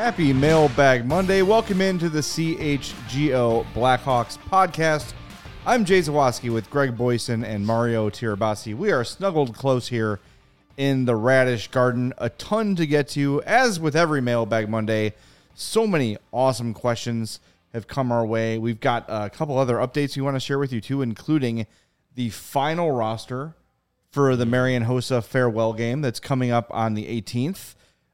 Happy Mailbag Monday. Welcome into the CHGO Blackhawks podcast. I'm Jay Zawaski with Greg Boyson and Mario Tirabassi. We are snuggled close here in the Radish Garden. A ton to get to, as with every Mailbag Monday. So many awesome questions have come our way. We've got a couple other updates we want to share with you too, including the final roster for the Marian Hossa farewell game that's coming up on the 18th.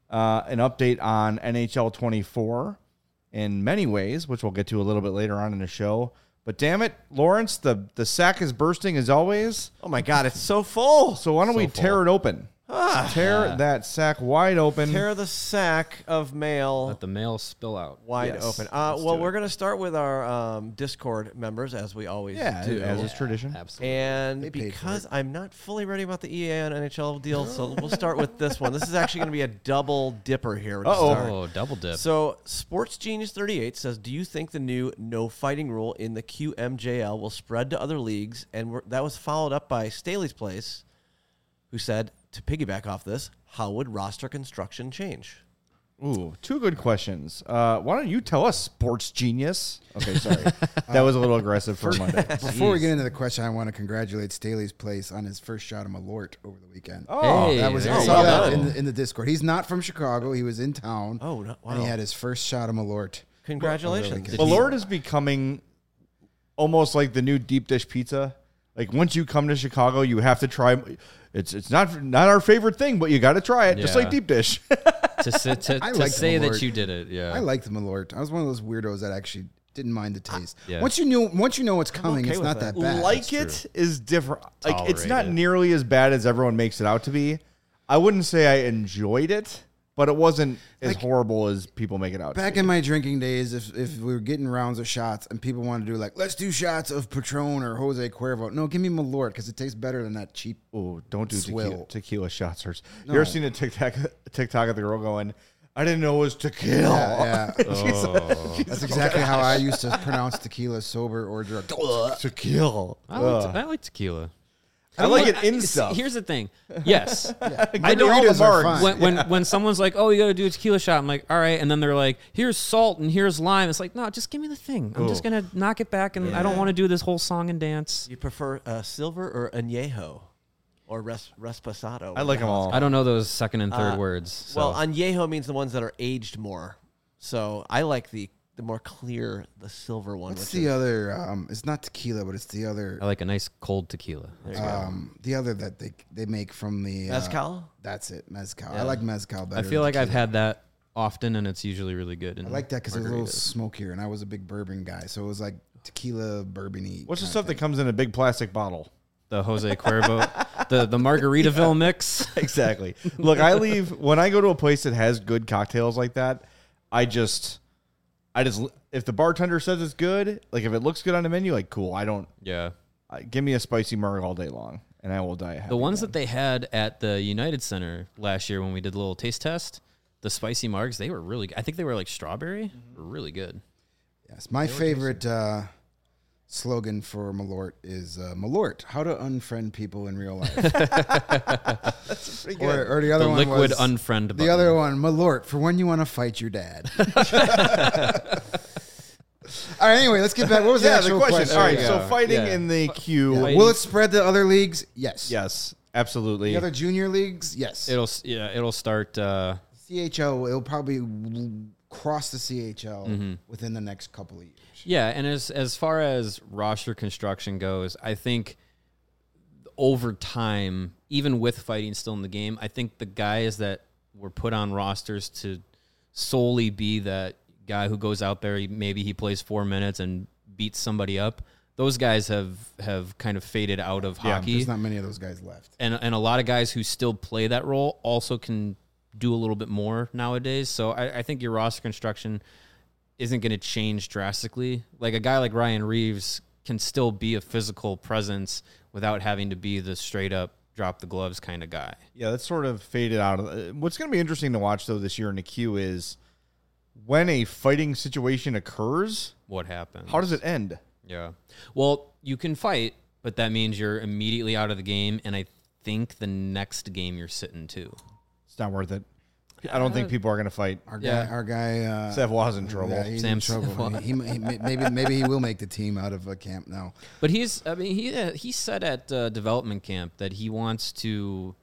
An update on NHL 24 in many ways, which we'll get to a little bit later on in the show. But damn it, Lawrence, the sack is bursting as always. Oh my God, it's so full. So why don't we tear it open? Tear that sack wide open. Tear the sack of mail. Let the mail spill out. Wide open. Well, we're going to start with our Discord members, as we always do. As is tradition. Absolutely. And because I'm not fully ready about the EA and NHL deal, so we'll start with this one. This is actually going to be a double dipper here. Oh, double dip. So, Sports Genius 38 says, do you think the new no fighting rule in the QMJL will spread to other leagues? And that was followed up by Staley's Place, who said, to piggyback off this, how would roster construction change? Ooh, two good questions. Why don't you tell us, Sports Genius? Okay, sorry. That was a little aggressive for Monday. Before we get into the question, I want to congratulate Staley's Place on his first shot of Malort over the weekend. Oh, Hey, that was there I you saw go. that in the Discord. He's not from Chicago. He was in town. Oh, no, wow. And he had his first shot of Malort. Congratulations. Really Malort is becoming almost like the new deep dish pizza. Like once you come to Chicago, you have to try. It's not our favorite thing, but you got to try it, just Yeah. like deep dish. to I to like say Malort. that you did it, yeah. I liked Malort. I was one of those weirdos that actually didn't mind the taste. Yeah. Once you know what's coming, okay it's with not that. that bad. Like it is different. Like it's not Tolerated. nearly as bad as everyone makes it out to be. I wouldn't say I enjoyed it, but it wasn't as horrible as people make it out. Back in my drinking days, if we were getting rounds of shots and people wanted to do like, let's do shots of Patron or Jose Cuervo. No, give me Malort because it tastes better than that cheap. Oh, don't do Swill. tequila shots. You No. ever seen a TikTok of the girl going, I didn't know it was tequila. Yeah. That's exactly how I used to pronounce tequila, sober or drunk. Tequila. I like tequila. I like it in See, stuff. Here's the thing. Yes. I Margaritas don't are fine. when someone's like, "Oh, you got to do a tequila shot." I'm like, "All right." And then they're like, "Here's salt and here's lime." It's like, "No, just give me the thing. I'm just going to knock it back and I don't want to do this whole song and dance." You prefer silver or añejo or reposado? I like them all. I don't know those second and third words. So. Well, añejo means the ones that are aged more. So I like the more clear, the silver one. What's which the is, other? It's not tequila, but it's the other. I like a nice cold tequila. The other that they make from the Mezcal? That's it, mezcal. Yeah. I like mezcal better. I feel than like I've tequila. had that often, and it's usually really good. I like that because it's a little margaritas. smokier, and I was a big bourbon guy, so it was like tequila, bourbony. What's the stuff that comes in a big plastic bottle? The Jose Cuervo, the Margaritaville mix. Exactly. Look, when I go to a place that has good cocktails like that, I just if the bartender says it's good, like if it looks good on the menu, like cool. Yeah. Give me a spicy marg all day long, and I will die happy. The ones that they had at the United Center last year when we did the little taste test, the spicy margs, they were really good. I think they were like strawberry. Were really good. Yes, my favorite slogan for Malort is Malort, how to unfriend people in real life. That's pretty good. Or the other The one liquid was, unfriend button. The other one, Malort, for when you want to fight your dad. All right, anyway, let's get back. What was the actual question? All right, There you so go. fighting Yeah. in the queue. Fighting. Will it spread to other leagues? Yes. Yes, absolutely. The other junior leagues? Yes. It'll start. CHL, it'll probably cross the CHL within the next couple of years. Yeah, and as far as roster construction goes, I think over time, even with fighting still in the game, I think the guys that were put on rosters to solely be that guy who goes out there, maybe he plays 4 minutes and beats somebody up, those guys have kind of faded out of hockey. There's not many of those guys left. And a lot of guys who still play that role also can do a little bit more nowadays. So I think your roster construction isn't going to change drastically. Like a guy like Ryan Reeves can still be a physical presence without having to be the straight up drop the gloves kind of guy. Yeah, that's sort of faded out. What's going to be interesting to watch, though, this year in the queue is when a fighting situation occurs, What happens? how does it end? Yeah. Well, you can fight, but that means you're immediately out of the game, and I think the next game you're sitting too. It's not worth it. I don't think people are going to fight. Our Yeah. guy, Savoy's in trouble. Yeah, he's Sam in trouble. Savoy. Maybe he will make the team out of camp now. But he said at development camp that he wants to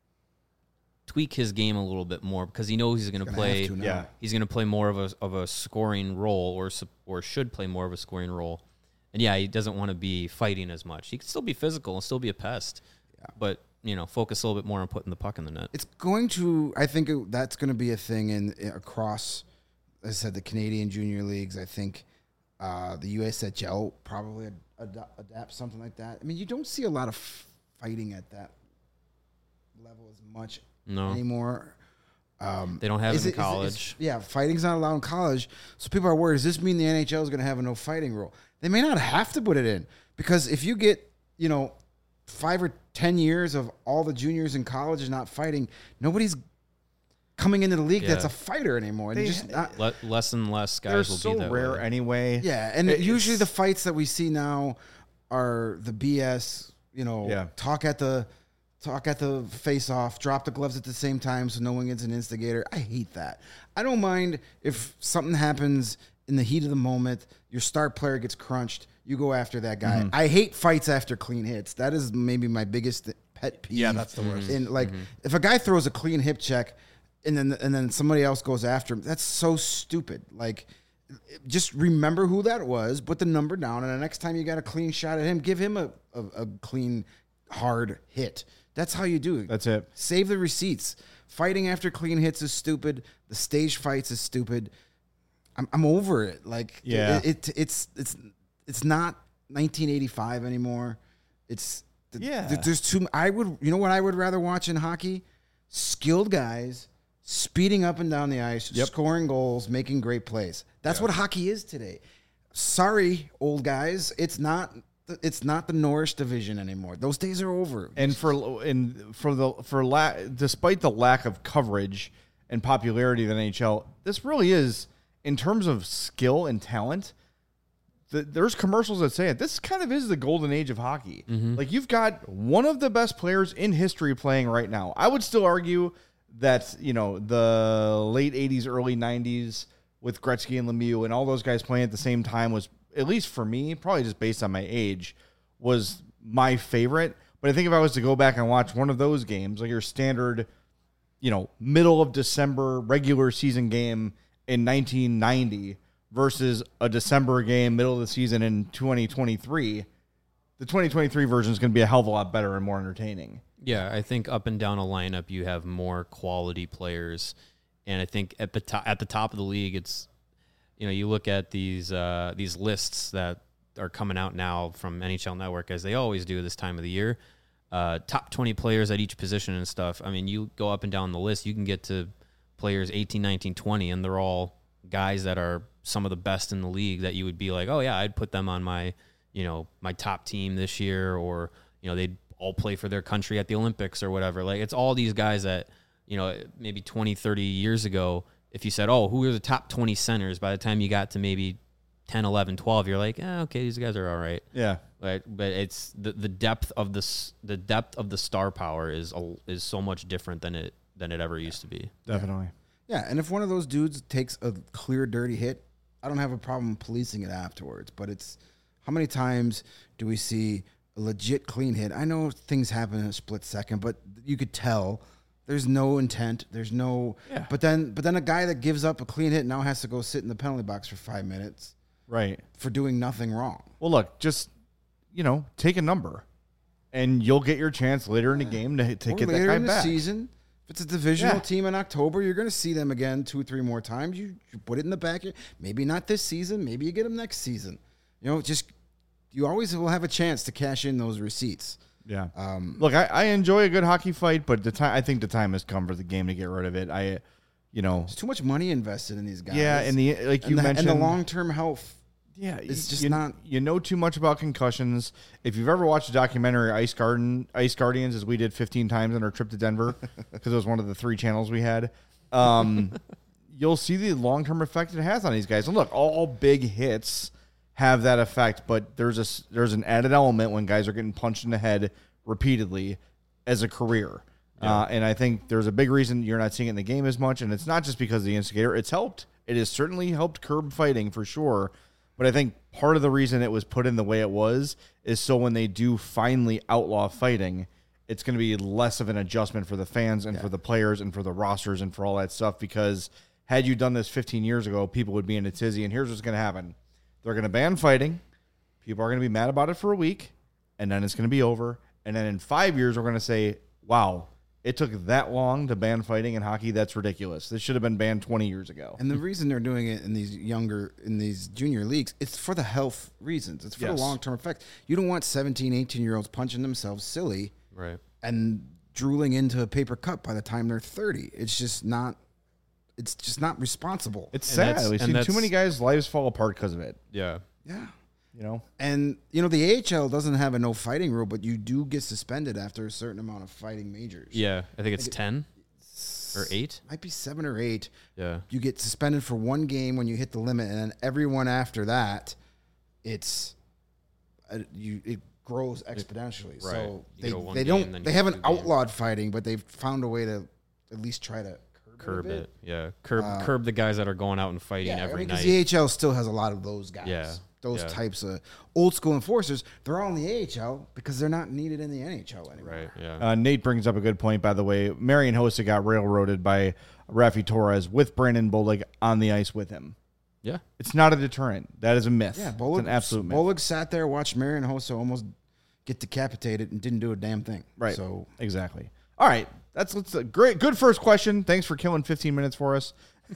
tweak his game a little bit more because he knows he's going to Gonna play. have to now. Yeah. He's going to play more of a scoring role, or should play more of a scoring role. And yeah, he doesn't want to be fighting as much. He can still be physical and still be a pest, but focus a little bit more on putting the puck in the net. It's going to. I think that's going to be a thing across. As I said, the Canadian junior leagues. I think the USHL probably adapt something like that. I mean, you don't see a lot of fighting at that level as much anymore. They don't have it in college. Fighting's not allowed in college. So people are worried, does this mean the NHL is going to have a no fighting rule? They may not have to put it in because if you get, 5 or 10 years of all the juniors in college is not fighting, nobody's coming into the league that's a fighter anymore. And just less and less guys They're will so be that rare way. anyway. Yeah, and usually the fights that we see now are the BS, talk at the face off, drop the gloves at the same time so no one gets an instigator. I hate that. I don't mind if something happens in the heat of the moment, your star player gets crunched, you go after that guy. I hate fights after clean hits. That is maybe my biggest pet peeve. Yeah, that's the worst. And if a guy throws a clean hip check and then somebody else goes after him, that's so stupid. Like, just remember who that was, put the number down, and the next time you got a clean shot at him, give him a clean, hard hit. That's how you do it. That's it. Save the receipts. Fighting after clean hits is stupid. The stage fights is stupid. I'm over it. Like, it's not 1985 anymore. There's too. You know what I would rather watch in hockey? Skilled guys speeding up and down the ice, scoring goals, making great plays. That's what hockey is today. Sorry, old guys, it's not the Norris division anymore. Those days are over. And despite the lack of coverage and popularity of the NHL, this really is, in terms of skill and talent, there's commercials that say it. This kind of is the golden age of hockey. Like, you've got one of the best players in history playing right now. I would still argue that, the late 80s, early 90s with Gretzky and Lemieux and all those guys playing at the same time was, at least for me, probably just based on my age, was my favorite. But I think if I was to go back and watch one of those games, like your standard, middle of December regular season game in 1990 versus a December game, middle of the season in 2023, the 2023 version is going to be a hell of a lot better and more entertaining. Yeah, I think up and down a lineup, you have more quality players. And I think at the top of the league, it's, you look at these lists that are coming out now from NHL Network, as they always do this time of the year. Top 20 players at each position and stuff. I mean, you go up and down the list, you can get to players 18, 19, 20, and they're all guys that are some of the best in the league that you would be like, oh yeah, I'd put them on my, my top team this year, or, they'd all play for their country at the Olympics or whatever. Like, it's all these guys that, maybe 20, 30 years ago, if you said, oh, who are the top 20 centers, by the time you got to maybe 10, 11, 12, you're like, okay, these guys are all right. Yeah. But it's the depth of the star power is so much different than it ever used to be. Definitely. Yeah, and if one of those dudes takes a clear, dirty hit, I don't have a problem policing it afterwards. But it's, how many times do we see a legit clean hit? I know things happen in a split second, but you could tell there's no intent. There's no. Yeah. But then a guy that gives up a clean hit now has to go sit in the penalty box for 5 minutes. Right. For doing nothing wrong. Well, look, just, take a number, and you'll get your chance later in the game to get that later guy in the back. season. If it's a divisional team in October, you're going to see them again 2 or 3 more times. You put it in the back. Maybe not this season. Maybe you get them next season. You always will have a chance to cash in those receipts. Yeah. Look, I enjoy a good hockey fight, but I think the time has come for the game to get rid of it. There's too much money invested in these guys. Yeah, and mentioned, and the long-term health. Yeah, it's just not. You know too much about concussions. If you've ever watched a documentary, Ice Guardians, as we did 15 times on our trip to Denver, because it was one of the 3 channels we had, you'll see the long-term effect it has on these guys. And look, all big hits have that effect, but there's an added element when guys are getting punched in the head repeatedly as a career. And I think there's a big reason you're not seeing it in the game as much, and it's not just because of the instigator. It's helped. It has certainly helped curb fighting for sure. But I think part of the reason it was put in the way it was is so when they do finally outlaw fighting, it's going to be less of an adjustment for the fans and for the players and for the rosters and for all that stuff. Because had you done this 15 years ago, people would be in a tizzy. And here's what's going to happen. They're going to ban fighting. People are going to be mad about it for a week. And then it's going to be over. And then in 5 years, we're going to say, wow, it took that long to ban fighting in hockey. That's ridiculous. This should have been banned 20 years ago. And the reason they're doing it in these junior leagues, it's for the health reasons. It's for the long-term effect. You don't want 17, 18-year-olds punching themselves silly and drooling into a paper cup by the time they're 30. It's just not responsible. It's sad. We've seen too many guys' lives fall apart because of it. Yeah. Yeah. And the AHL doesn't have a no fighting rule, but you do get suspended after a certain amount of fighting majors. Yeah, I think it's 10 or 8. Might be 7 or 8. Yeah. You get suspended for one game when you hit the limit, and then everyone after that, it grows exponentially. Right. So they haven't outlawed fighting, but they've found a way to at least try to curb it. Yeah, curb the guys that are going out and fighting every night. Because the AHL still has a lot of those guys. Yeah. Those types of old school enforcers, they're all in the AHL because they're not needed in the NHL anymore. Right, yeah. Nate brings up a good point, by the way. Marian Hossa got railroaded by Rafi Torres with Brandon Bollig on the ice with him. Yeah. It's not a deterrent. That is a myth. Yeah, Bollig, it's an absolute myth. Bollig sat there, watched Marian Hossa almost get decapitated and didn't do a damn thing. Right. So exactly. All right. That's great. Good first question. Thanks for killing 15 minutes for us.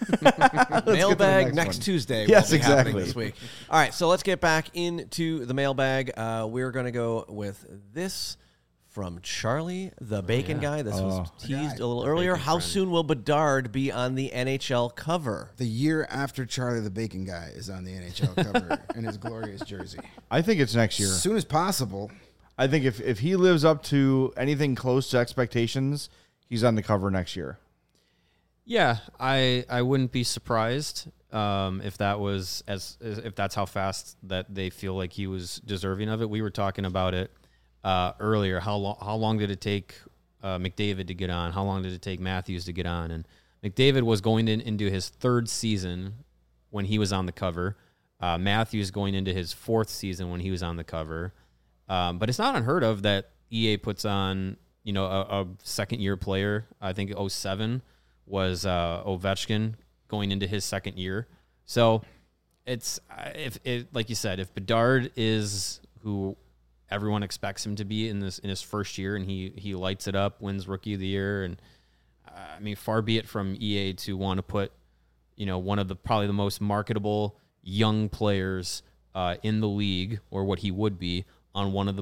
Mailbag next Tuesday. Yes, will be happening exactly. This week. All right, so let's get back into the mailbag. We're going to go with this from Charlie, the bacon guy. This was teased a little earlier. How soon will Bedard be on the NHL cover? The year after Charlie the Bacon Guy is on the NHL cover in his glorious jersey. I think it's next year. As soon as possible. I think if he lives up to anything close to expectations, he's on the cover next year. Yeah, I wouldn't be surprised if that was if that's how fast that they feel like he was deserving of it. We were talking about it earlier. How long did it take McDavid to get on? How long did it take Matthews to get on? And McDavid was going into his 3rd season when he was on the cover. Matthews going into his 4th season when he was on the cover. But it's not unheard of that EA puts on a second-year player. I think 2007 was Ovechkin going into his 2nd year. So it's like you said, if Bedard is who everyone expects him to be in his first year and he lights it up, wins Rookie of the Year, and I mean, far be it from EA to want to put one of probably the most marketable young players in the league, or what he would be, on one of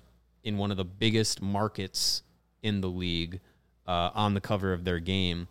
the biggest markets in the league on the cover of their game.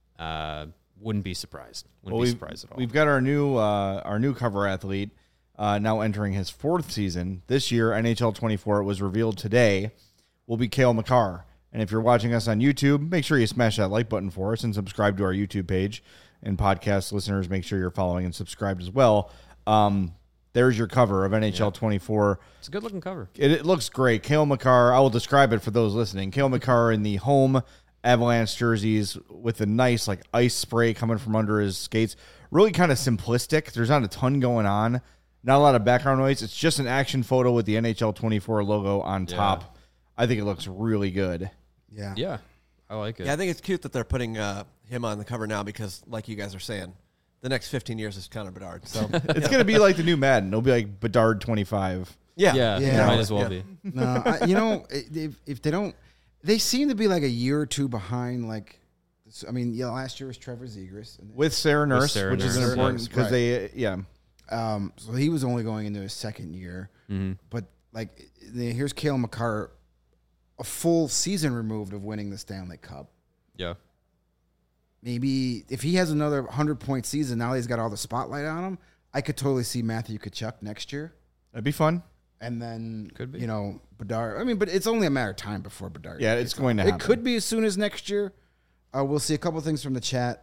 Wouldn't be surprised. Wouldn't be surprised at all. We've got our new cover athlete now entering his 4th season. This year, NHL 24, it was revealed today, will be Cale Makar. And if you're watching us on YouTube, make sure you smash that like button for us and subscribe to our YouTube page. And podcast listeners, make sure you're following and subscribed as well. There's your cover of NHL 24. It's a good-looking cover. It looks great. Cale Makar, I will describe it for those listening. Cale Makar in the home Avalanche jerseys with a nice ice spray coming from under his skates. Really kind of simplistic. There's not a ton going on. Not a lot of background noise. It's just an action photo with the NHL 24 logo on top. I think it looks really good. Yeah. Yeah. I like it. Yeah, I think it's cute that they're putting him on the cover now because, like you guys are saying, the next 15 years is Connor Bedard. So it's going to be like the new Madden. It'll be like Bedard 25. Yeah. Might as well be. No, if they don't, they seem to be like a year or two behind. Last year was Trevor Zegras with Sarah Nurse, which is important because so he was only going into his 2nd year, but here's Cale Makar, a full season removed of winning the Stanley Cup. Yeah. Maybe if he has another 100-point season, now he's got all the spotlight on him. I could totally see Matthew Tkachuk next year. That'd be fun. And then, could be. Bedard. But it's only a matter of time before Bedard. Yeah, it's going to happen. It could be as soon as next year. We'll see a couple things from the chat.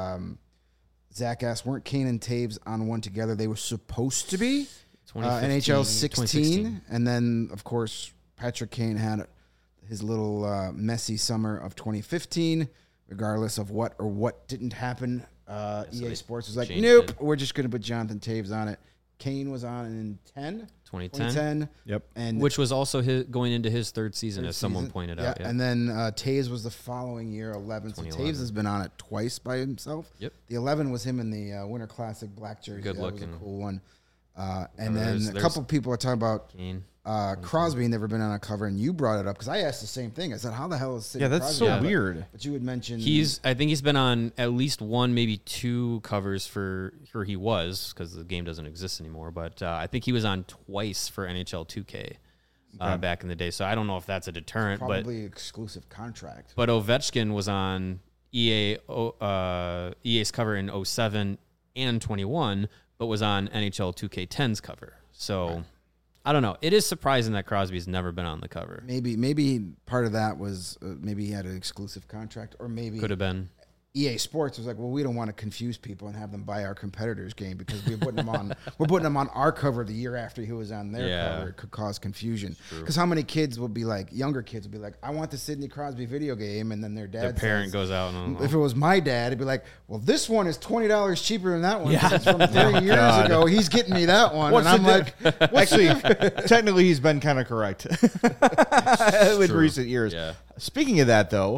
Zach asked, weren't Kane and Taves on one together? They were supposed to be. NHL 16. And then, of course, Patrick Kane had his little messy summer of 2015, regardless of what didn't happen. EA Sports was like, nope, we're just going to put Jonathan Toews on it. Kane was on in 2010. Yep. And which was also going into his third season, as someone pointed out. Yeah. And then Toews was the following year, 11. So Toews has been on it twice by himself. Yep. The 11 was him in the Winter Classic black jersey. Good looking. That was a cool one. And then a couple people are talking about Crosby never been on a cover, and you brought it up because I asked the same thing. I said, "How the hell is Sidney that's Crosby?" so weird. But you had mentioned I think he's been on at least one, maybe two covers for he was, because the game doesn't exist anymore. But I think he was on twice for NHL 2K back in the day. So I don't know if that's a deterrent, probably exclusive contract. But Ovechkin was on EA's cover in 07 and 21, but was on NHL 2K10's cover. So I don't know. It is surprising that Crosby's never been on the cover. Maybe part of that was maybe he had an exclusive contract, or maybe could have been. EA Sports was like, well, we don't want to confuse people and have them buy our competitors' game because we're putting them on. We're putting them on our cover the year after he was on their cover. It could cause confusion. Because how many kids will be like, younger kids will be like, I want the Sidney Crosby video game, and then their parent goes out and if it was my dad, it'd be like, well, this one is $20 cheaper than that one. Yeah. It's from 3 years ago. He's getting me that one, and I'm like, actually, technically, he's been kind of correct in recent years. Yeah. Speaking of that, though.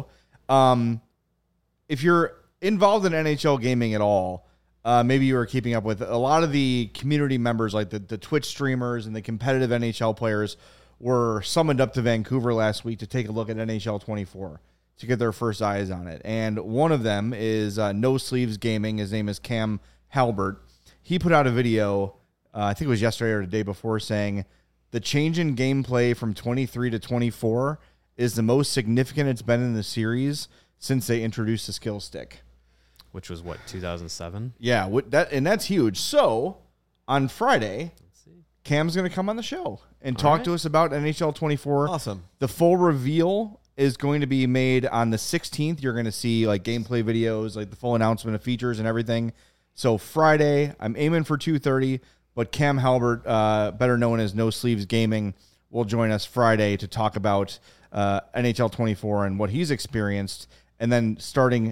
If you're involved in NHL gaming at all, maybe you are keeping up with a lot of the community members, like the Twitch streamers and the competitive NHL players, were summoned up to Vancouver last week to take a look at NHL 24 to get their first eyes on it. And one of them is No Sleeves Gaming. His name is Cam Halbert. He put out a video, I think it was yesterday or the day before, saying the change in gameplay from 23 to 24 is the most significant it's been in the series since they introduced the skill stick. Which was, 2007? Yeah, that's huge. So, on Friday, Cam's going to come on the show and talk to us about NHL 24. Awesome. The full reveal is going to be made on the 16th. You're going to see like gameplay videos, like the full announcement of features and everything. So, Friday, I'm aiming for 2:30, but Cam Halbert, better known as No Sleeves Gaming, will join us Friday to talk about NHL 24 and what he's experienced. And then starting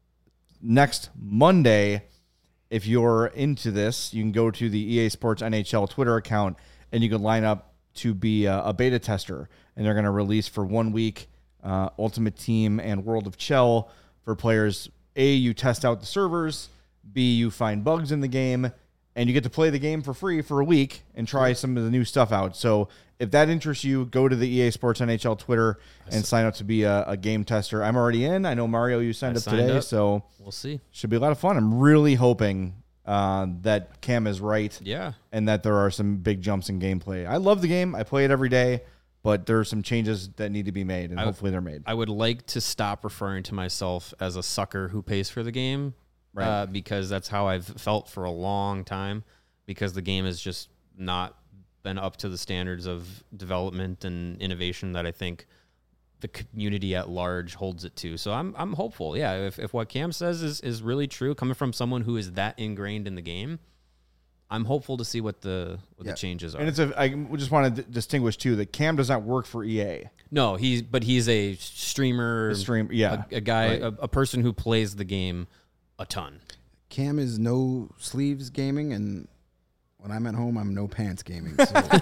next Monday, if you're into this, you can go to the EA Sports NHL Twitter account and you can line up to be a beta tester. And they're going to release for 1 week Ultimate Team and World of Chell for players. A, you test out the servers. B, you find bugs in the game. And you get to play the game for free for a week and try some of the new stuff out. So if that interests you, go to the EA Sports NHL Twitter and sign up to be a game tester. I'm already in. I know, Mario, you signed up today, so we'll see. Should be a lot of fun. I'm really hoping that Cam is right. Yeah. And that there are some big jumps in gameplay. I love the game. I play it every day, but there are some changes that need to be made, and hopefully they're made. I would like to stop referring to myself as a sucker who pays for the game. Right. Because that's how I've felt for a long time, because the game has just not been up to the standards of development and innovation that I think the community at large holds it to. So I'm hopeful. Yeah, if what Cam says is really true, coming from someone who is that ingrained in the game, I'm hopeful to see what the changes are. And I just want to distinguish too that Cam does not work for EA. No, he's a streamer, a guy, right. a person who plays the game a ton. Cam is No Sleeves Gaming, and when I'm at home, I'm No Pants Gaming. So.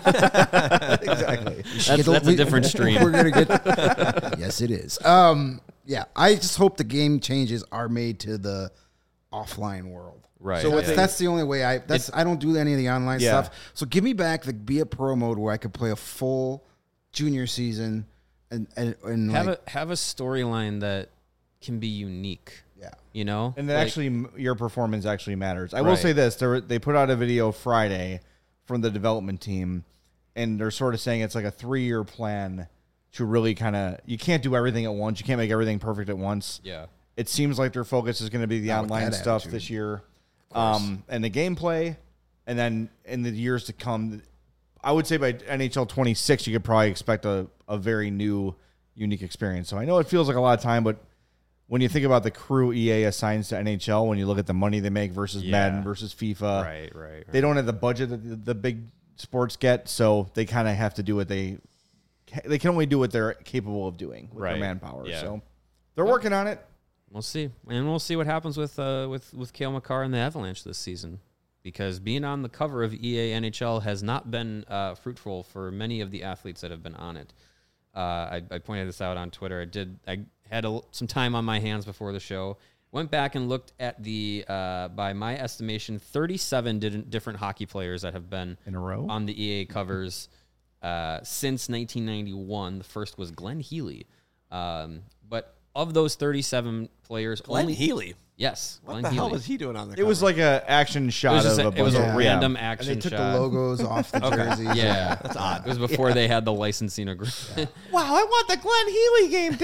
Exactly. That's a different stream. We're gonna get. Yes, it is. Yeah, I just hope the game changes are made to the offline world. Right. So that's the only way I don't do any of the online stuff. So give me back the Be a Pro mode where I could play a full junior season and have a storyline that can be unique. Yeah. You know? And that actually your performance actually matters. I will say this. They put out a video Friday from the development team, and they're sort of saying it's like a 3-year plan to really kind of... You can't do everything at once. You can't make everything perfect at once. Yeah. It seems like their focus is going to be the online stuff this year. And the gameplay. And then in the years to come, I would say by NHL 26, you could probably expect a very new, unique experience. So I know it feels like a lot of time, but when you think about the crew EA assigns to NHL, when you look at the money they make versus Madden versus FIFA, right. They don't have the budget that the big sports get, so they kind of have to do what they they can only do what they're capable of doing with their manpower. Yeah. So they're working on it. We'll see, and we'll see what happens with Cale Makar and the Avalanche this season, because being on the cover of EA NHL has not been fruitful for many of the athletes that have been on it. I pointed this out on Twitter. I had some time on my hands before the show. Went back and looked at the, by my estimation, 37 different hockey players that have been in a row on the EA covers since 1991. The first was Glenn Healy, but of those 37 players, Glenn Healy. Yes. What the hell was he doing on the cover? It was like an action shot of a bunch. It was a random action and they took shot. the logos off the jerseys. Yeah. That's odd. It was before they had the licensing agreement. Wow, I want the Glenn Healy game,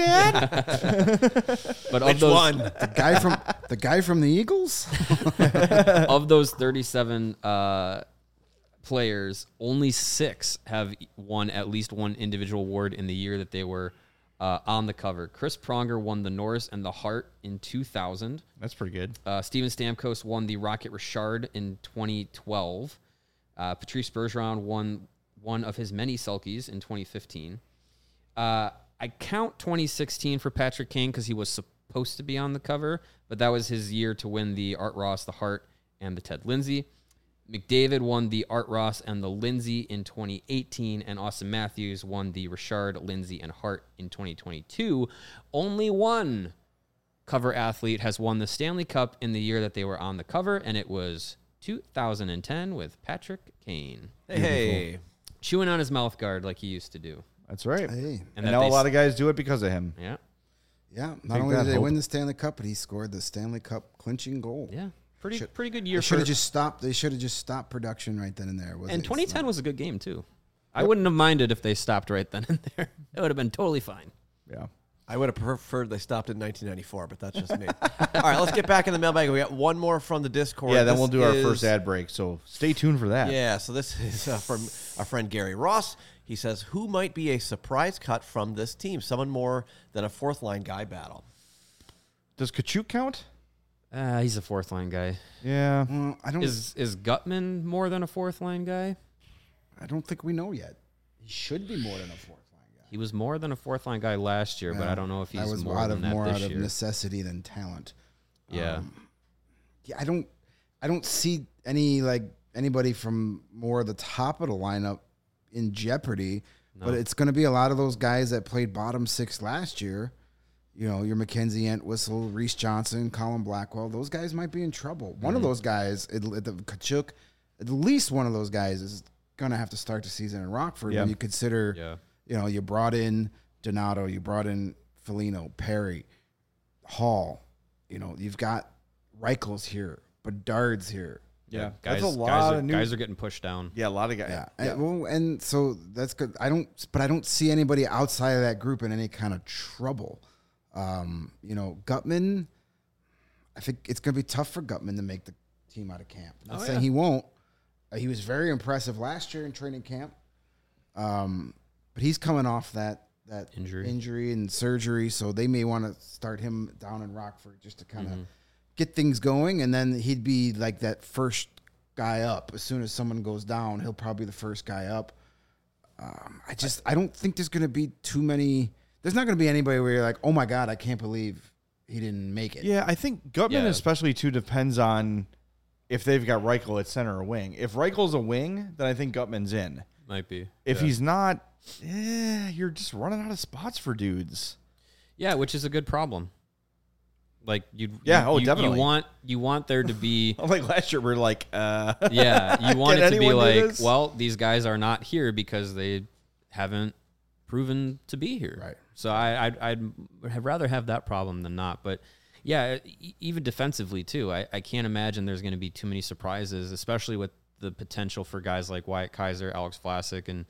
Dad. But Which of those, one? The guy from the Eagles? of those 37 players, only 6 have won at least one individual award in the year that they were on the cover. Chris Pronger won the Norris and the Hart in 2000. That's pretty good. Steven Stamkos won the Rocket Richard in 2012. Patrice Bergeron won one of his many Selkies in 2015. I count 2016 for Patrick Kane because he was supposed to be on the cover, but that was his year to win the Art Ross, the Hart, and the Ted Lindsay. McDavid won the Art Ross and the Lindsay in 2018, and Austin Matthews won the Richard, Lindsay, and Hart in 2022. Only one cover athlete has won the Stanley Cup in the year that they were on the cover, and it was 2010 with Patrick Kane. Hey. Chewing on his mouth guard like he used to do. That's right. Hey. And now a lot of guys do it because of him. Yeah. Yeah. Not only did they win the Stanley Cup, but he scored the Stanley Cup clinching goal. Yeah. Pretty good year. They should have just stopped production right then and there. And 2010 was a good game too. I wouldn't have minded if they stopped right then and there. It would have been totally fine. Yeah. I would have preferred they stopped in 1994, but that's just me. All right, let's get back in the mailbag. We got one more from the Discord. Yeah, then we'll do our first ad break. So stay tuned for that. Yeah, so this is from our friend Gary Ross. He says, who might be a surprise cut from this team? Someone more than a fourth-line guy battle. Does Kachuk count? He's a fourth line guy. Yeah. I don't. Is Gutman more than a fourth line guy? I don't think we know yet. He should be more than a fourth line guy. He was more than a fourth line guy last year, but I don't know if he's more than that this year. Out of necessity than talent. Yeah. I don't see anybody from more of the top of the lineup in jeopardy. No. But it's going to be a lot of those guys that played bottom six last year. You know, your Mackenzie Entwistle, Reese Johnson, Colin Blackwell, those guys might be in trouble. One of those guys, Kachuk, at least one of those guys is going to have to start the season in Rockford. When you consider, you brought in Donato, you brought in Foligno, Perry, Hall. You know, you've got Reichel's here, Bedard's here. Yeah, that's a lot of new guys are getting pushed down. Yeah, a lot of guys. Yeah. And so that's good. I don't see anybody outside of that group in any kind of trouble. Gutman, I think it's going to be tough for Gutman to make the team out of camp. I'm not saying he won't. He was very impressive last year in training camp. But he's coming off that injury and surgery, so they may want to start him down in Rockford just to kind of get things going, and then he'd be like that first guy up. As soon as someone goes down, he'll probably be the first guy up. I don't think there's going to be too many. There's not going to be anybody where you're like, oh my God, I can't believe he didn't make it. Yeah, I think Gutman especially too depends on if they've got Reichel at center or wing. If Reichel's a wing, then I think Gutman's in. Might be. If he's not, you're just running out of spots for dudes. Yeah, which is a good problem. Like definitely. You want there to be like last year we're like you want it to be like, well, these guys are not here because they haven't proven to be here. Right. So I'd rather have that problem than not. But yeah, even defensively too, I can't imagine there's going to be too many surprises, especially with the potential for guys like Wyatt Kaiser, Alex Vlasic, and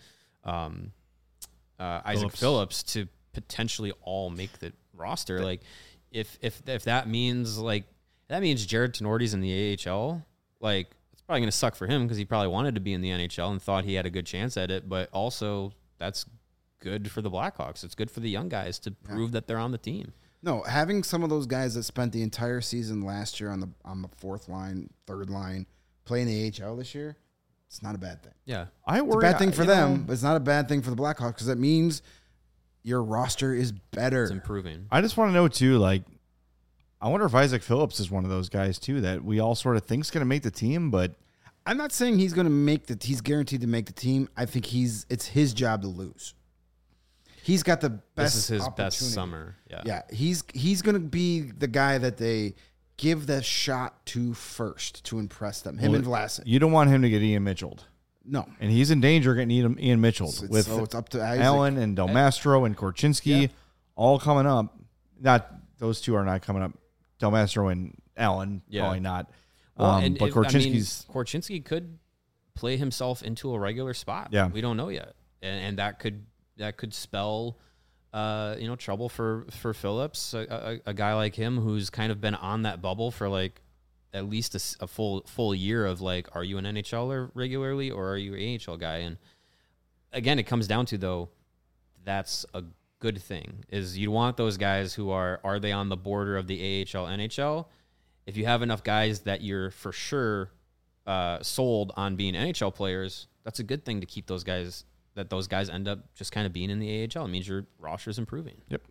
Isaac Phillips to potentially all make the roster. Like if that means Jared Tenorti's in the AHL, like it's probably going to suck for him because he probably wanted to be in the NHL and thought he had a good chance at it. But also that's good for the Blackhawks. It's good for the young guys to prove that they're on the team. No, having some of those guys that spent the entire season last year on the fourth line, third line, playing the AHL this year, It's not a bad thing. Yeah. I worry. It's a bad thing for them, but it's not a bad thing for the Blackhawks because that means your roster is better. It's improving. I just want to know too, like, I wonder if Isaac Phillips is one of those guys too that we all sort of think is going to make the team, but I'm not saying he's going to he's guaranteed to make the team. I think it's his job to lose. He's got the best. This is his best summer. Yeah. Yeah. He's going to be the guy that they give the shot to first to impress them. Him and Vlasic. you don't want him to get Ian Mitchelled. No. And he's in danger of getting Ian Mitchelled with it's up to Isaac. Allen and Del Mastro and Korchinski all coming up. Those two are not coming up. Del Mastro and Allen, probably not. Well, but Korchinski's... Korchinski could play himself into a regular spot. Yeah. We don't know yet. And that could spell trouble for Phillips, a guy like him who's kind of been on that bubble for like at least a full year of like, are you an NHLer regularly or are you an AHL guy? And again, it comes down to, though, that's a good thing, is you want those guys who are they on the border of the AHL, NHL? If you have enough guys that you're for sure sold on being NHL players, that's a good thing to keep those guys, that those guys end up just kind of being in the AHL. It means your roster's improving. Yep.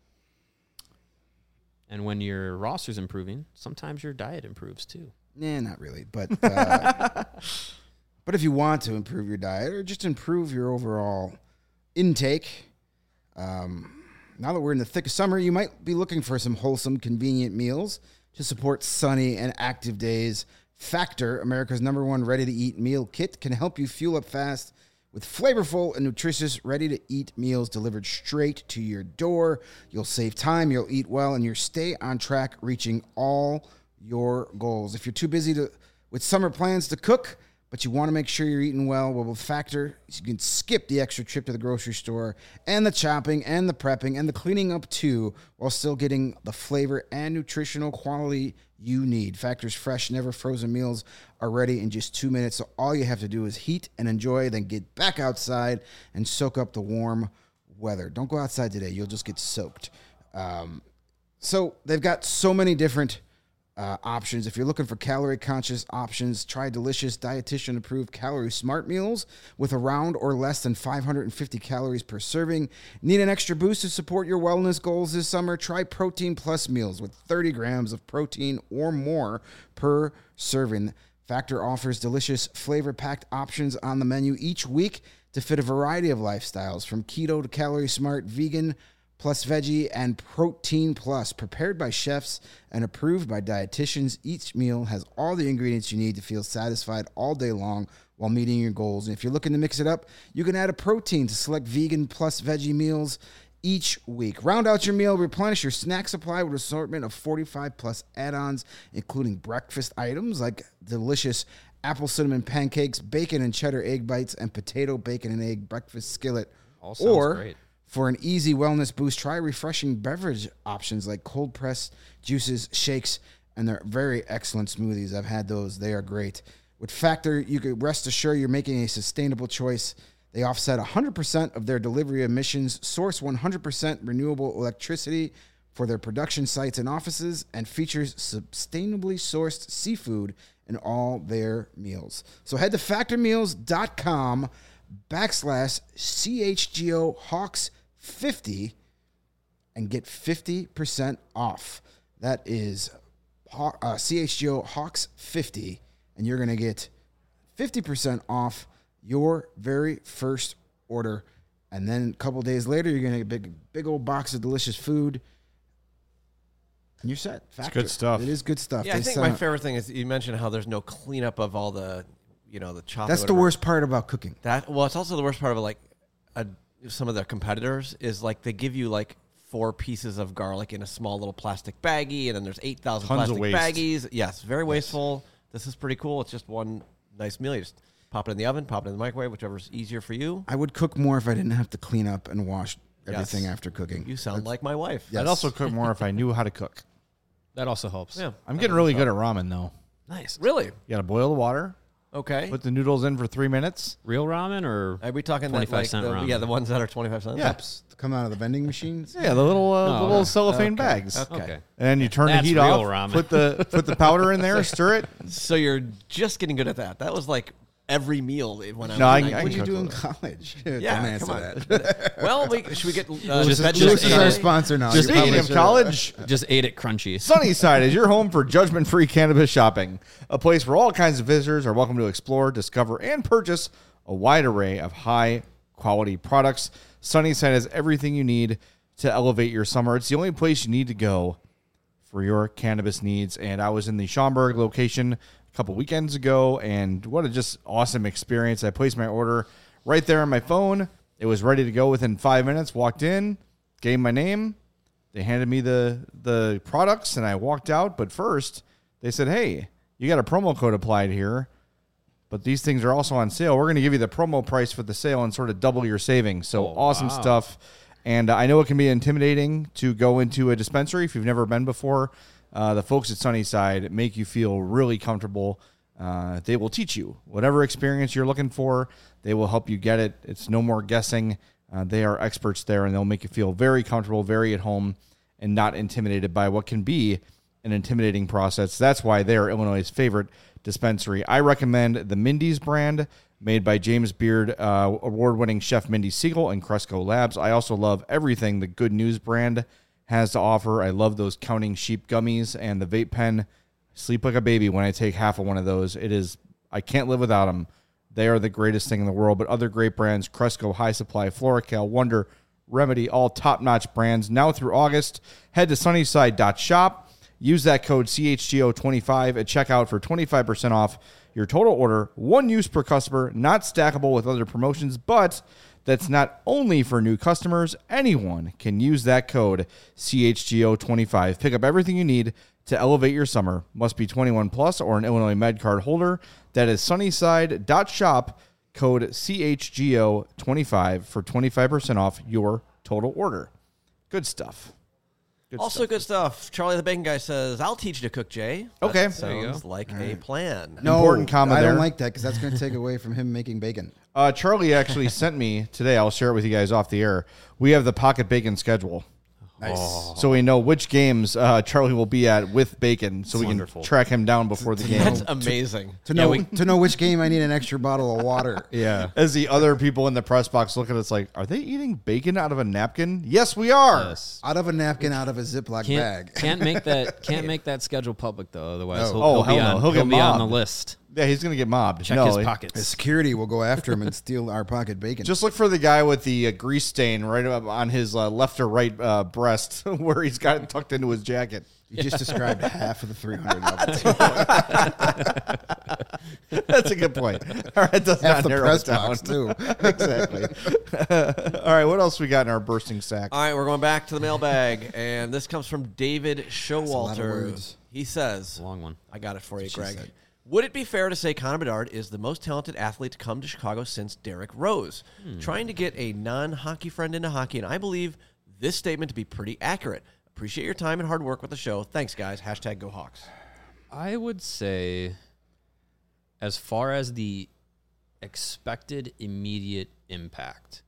And when your roster's improving, sometimes your diet improves too. Nah, not really. But but if you want to improve your diet or just improve your overall intake, now that we're in the thick of summer, you might be looking for some wholesome, convenient meals to support sunny and active days. Factor, America's #1 ready-to-eat meal kit, can help you fuel up fast with flavorful and nutritious ready-to-eat meals delivered straight to your door. You'll save time, you'll eat well, and you'll stay on track reaching all your goals. If you're too busy with summer plans to cook, but you want to make sure you're eating well, with Factor, you can skip the extra trip to the grocery store and the chopping and the prepping and the cleaning up too, while still getting the flavor and nutritional quality you need. Factor's fresh, never frozen meals are ready in just 2 minutes, so all you have to do is heat and enjoy, then get back outside and soak up the warm weather. Don't go outside today. You'll just get soaked. So they've got so many different options. If you're looking for calorie-conscious options, try delicious, dietitian-approved Calorie Smart meals with around or less than 550 calories per serving. Need an extra boost to support your wellness goals this summer? Try Protein Plus meals with 30 grams of protein or more per serving. Factor offers delicious, flavor-packed options on the menu each week to fit a variety of lifestyles, from keto to Calorie Smart, vegan, plus veggie, and Protein Plus, prepared by chefs and approved by dietitians. Each meal has all the ingredients you need to feel satisfied all day long while meeting your goals. And if you're looking to mix it up, you can add a protein to select vegan plus veggie meals each week. Round out your meal, replenish your snack supply with an assortment of 45 plus add-ons, including breakfast items like delicious apple cinnamon pancakes, bacon and cheddar egg bites, and potato, bacon, and egg breakfast skillet. All sounds great. For an easy wellness boost, try refreshing beverage options like cold-pressed juices, shakes, and they're very excellent smoothies. I've had those. They are great. With Factor, you can rest assured you're making a sustainable choice. They offset 100% of their delivery emissions, source 100% renewable electricity for their production sites and offices, and features sustainably sourced seafood in all their meals. So head to factormeals.com/CHGO Hawks 50 and get 50% off. That is CHGO Hawks 50, and you're going to get 50% off your very first order. And then a couple days later, you're going to get a big old box of delicious food, and you're set. Factor. It's good stuff. It is good stuff. Yeah, I think my favorite thing is you mentioned how there's no cleanup of all the, the chopping. That's the worst part about cooking. It's also the worst part of some of their competitors is like they give you like 4 pieces of garlic in a small little plastic baggie, and then there's 8,000 plastic baggies. Yes, very wasteful. This is pretty cool. It's just one nice meal. You just pop it in the oven, pop it in the microwave, whichever's easier for you. I would cook more if I didn't have to clean up and wash everything after cooking. You sound like my wife. I'd also cook more if I knew how to cook. That also helps. Yeah, I'm getting really good at ramen, though. Nice. Really? You got to boil the water. Okay. Put the noodles in for 3 minutes. Real ramen or are we talking 25-cent ramen? Yeah, the ones that are 25 cents. Yeah. Cups come out of the vending machines. Yeah, the little cellophane bags. Okay. And then you turn That's the heat real off. ramen. Put the powder in there. Stir it. So you're just getting good at that. That was like every meal when I No, was I 19. can What did you cook do in with college? Yeah, Don't answer come on. that. Well, should we get Just- vegetables just Lewis is our today? sponsor now. Just You probably speaking of should- college, Just ate it crunchy. Sunnyside is your home for judgment-free cannabis shopping, a place where all kinds of visitors are welcome to explore, discover, and purchase a wide array of high-quality products. Sunnyside has everything you need to elevate your summer. It's the only place you need to go for your cannabis needs. And I was in the Schaumburg location a couple weekends ago, and what a just awesome experience. I placed my order right there on my phone. It was ready to go within 5 minutes. Walked in, gave my name. They handed me the products, and I walked out. But first, they said, hey, you got a promo code applied here, but these things are also on sale. We're going to give you the promo price for the sale and sort of double your savings. So awesome stuff. And I know it can be intimidating to go into a dispensary if you've never been before. The folks at Sunnyside make you feel really comfortable. They will teach you whatever experience you're looking for. They will help you get it. It's no more guessing. They are experts there, and they'll make you feel very comfortable, very at home, and not intimidated by what can be an intimidating process. That's why they are Illinois' favorite dispensary. I recommend the Mindy's brand, made by James Beard, award-winning chef Mindy Siegel and Cresco Labs. I also love everything the Good News brand has to offer. I love those Counting Sheep gummies and the vape pen. Sleep like a baby when I take half of one of those. I can't live without them. They are the greatest thing in the world. But other great brands, Cresco, High Supply, FloraCal, Wonder, Remedy, all top-notch brands. Now through August, head to sunnyside.shop. Use that code CHGO25 at checkout for 25% off your total order. One use per customer, not stackable with other promotions, but that's not only for new customers. Anyone can use that code CHGO25. Pick up everything you need to elevate your summer. Must be 21 plus or an Illinois MedCard holder. That is sunnyside.shop, code CHGO25 for 25% off your total order. Good stuff. Good stuff. Charlie the Bacon Guy says, I'll teach you to cook, Jay. Okay. That sounds like a plan. No, Important comma I there. don't like that because that's going to take away from him making bacon. Charlie actually sent me today. I'll share it with you guys off the air. We have the Pocket Bacon schedule. Nice. So we know which games Charlie will be at with bacon, so we wonderful. can track him down before the game. That's amazing. To know which game I need an extra bottle of water. Yeah. As the other people in the press box look at us like, are they eating bacon out of a napkin? Yes, we are. Yes. Out of a napkin, out of a Ziploc bag. Can't make that schedule public though. Otherwise, No. He'll get be on the mobbed. list. Yeah, he's going to get mobbed. Check No, his he- The pockets. security will go after him and steal our pocket bacon. Just look for the guy with the grease stain right up on his left or right breast where he's got it tucked into his jacket. you just described half of the 300 levels. That's a good point. All right, does Half not the narrow press it down. box, too. Exactly. All right, what else we got in our bursting sack? All right, we're going back to the mailbag, and this comes from David lot of Showalter. words. He says, Long one. I got it for you, she Greg. said. Would it be fair to say Connor Bedard is the most talented athlete to come to Chicago since Derrick Rose? Trying to get a non-hockey friend into hockey, and I believe this statement to be pretty accurate. Appreciate your time and hard work with the show. Thanks, guys. # Go Hawks. I would say, as far as the expected immediate impact,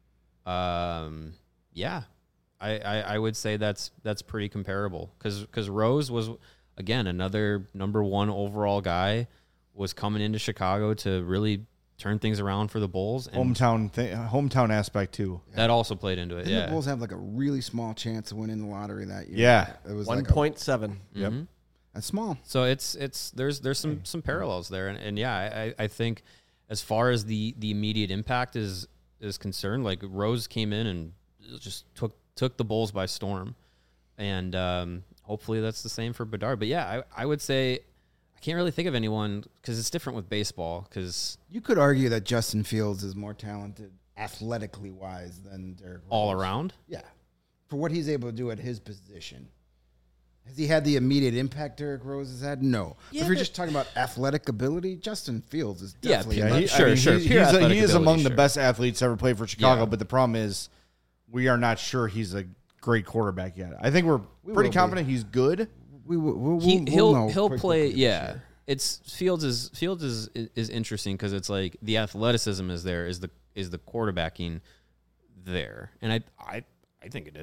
yeah, I would say that's pretty comparable because Rose was, again, another number one overall guy, was coming into Chicago to really turn things around for the Bulls. And Hometown aspect too. that also played into it. Didn't Yeah. the Bulls have like a really small chance of winning the lottery that year? Yeah. It was 1.7. Yep. That's small. So there's some parallels there, and yeah, I think as far as the immediate impact is concerned, like Rose came in and just took the Bulls by storm, and hopefully that's the same for Bedard. But yeah, I would say I can't really think of anyone because it's different with baseball. Because You could argue that Justin Fields is more talented athletically wise than Derrick Rose. all around, Yeah. For what he's able to do at his position. Has he had the immediate impact Derrick Rose has had? No. Yeah, if you're but- just talking about athletic ability, Justin Fields is Yeah, definitely yeah, not- he- Sure. Pure athletic He is ability, among the sure. best athletes ever played for Chicago, Yeah. but the problem is we are not sure he's a great quarterback yet. I think we're pretty will confident he's good. we'll know he'll pretty play. quickly this Yeah, year. it's Fields is interesting because it's like the athleticism is there, is the quarterbacking there, and I think it is.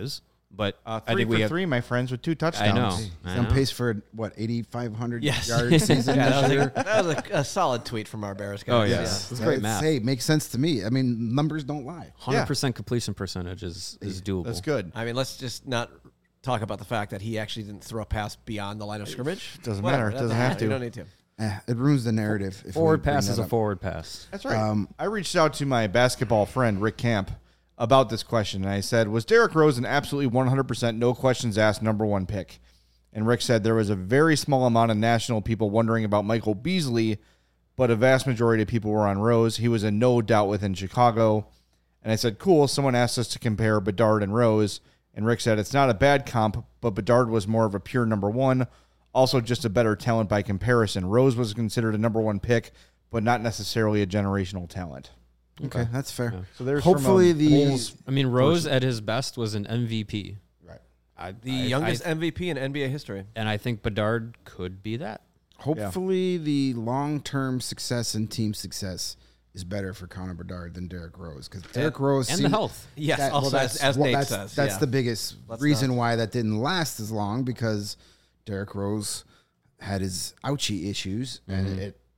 But I 3 think for we have 3, my friends, with 2 touchdowns. I know. He's on pace for what 8,500 Yes. yard season Yeah, this year. that was a solid tweet from our Bears guys. Oh, yeah. Yeah. It's great math. Hey, makes sense to me. I mean, numbers don't lie. 100% completion percentage is doable. That's good. I mean, let's just not talk about the fact that he actually didn't throw a pass beyond the line of scrimmage. Doesn't Whatever, matter. that Doesn't have to. You don't need to. It ruins the narrative. If Forward we bring pass that is a up. forward pass. That's right. I reached out to my basketball friend, Rick Camp, about this question, and I said, was Derrick Rose an absolutely 100% no questions asked number 1 pick? And Rick said there was a very small amount of national people wondering about Michael Beasley, but a vast majority of people were on Rose. He was a no doubt within Chicago. And I said, cool, someone asked us to compare Bedard and Rose. And Rick said, it's not a bad comp, but Bedard was more of a pure number 1, also just a better talent by comparison. Rose was considered a number 1 pick, but not necessarily a generational talent. Okay, that's fair. Yeah. So there's Hopefully from a the Bulls- I mean, Rose at his best was an MVP. right. The youngest MVP in NBA history. And I think Bedard could be that. Hopefully the long-term success and team success is better for Connor Bedard than Derrick Rose because Derrick Rose And seemed- the health. Yes, That- also well, as Nate that's, says. That's yeah. the biggest Let's reason not- why that didn't last as long because Derrick Rose had his ouchie issues and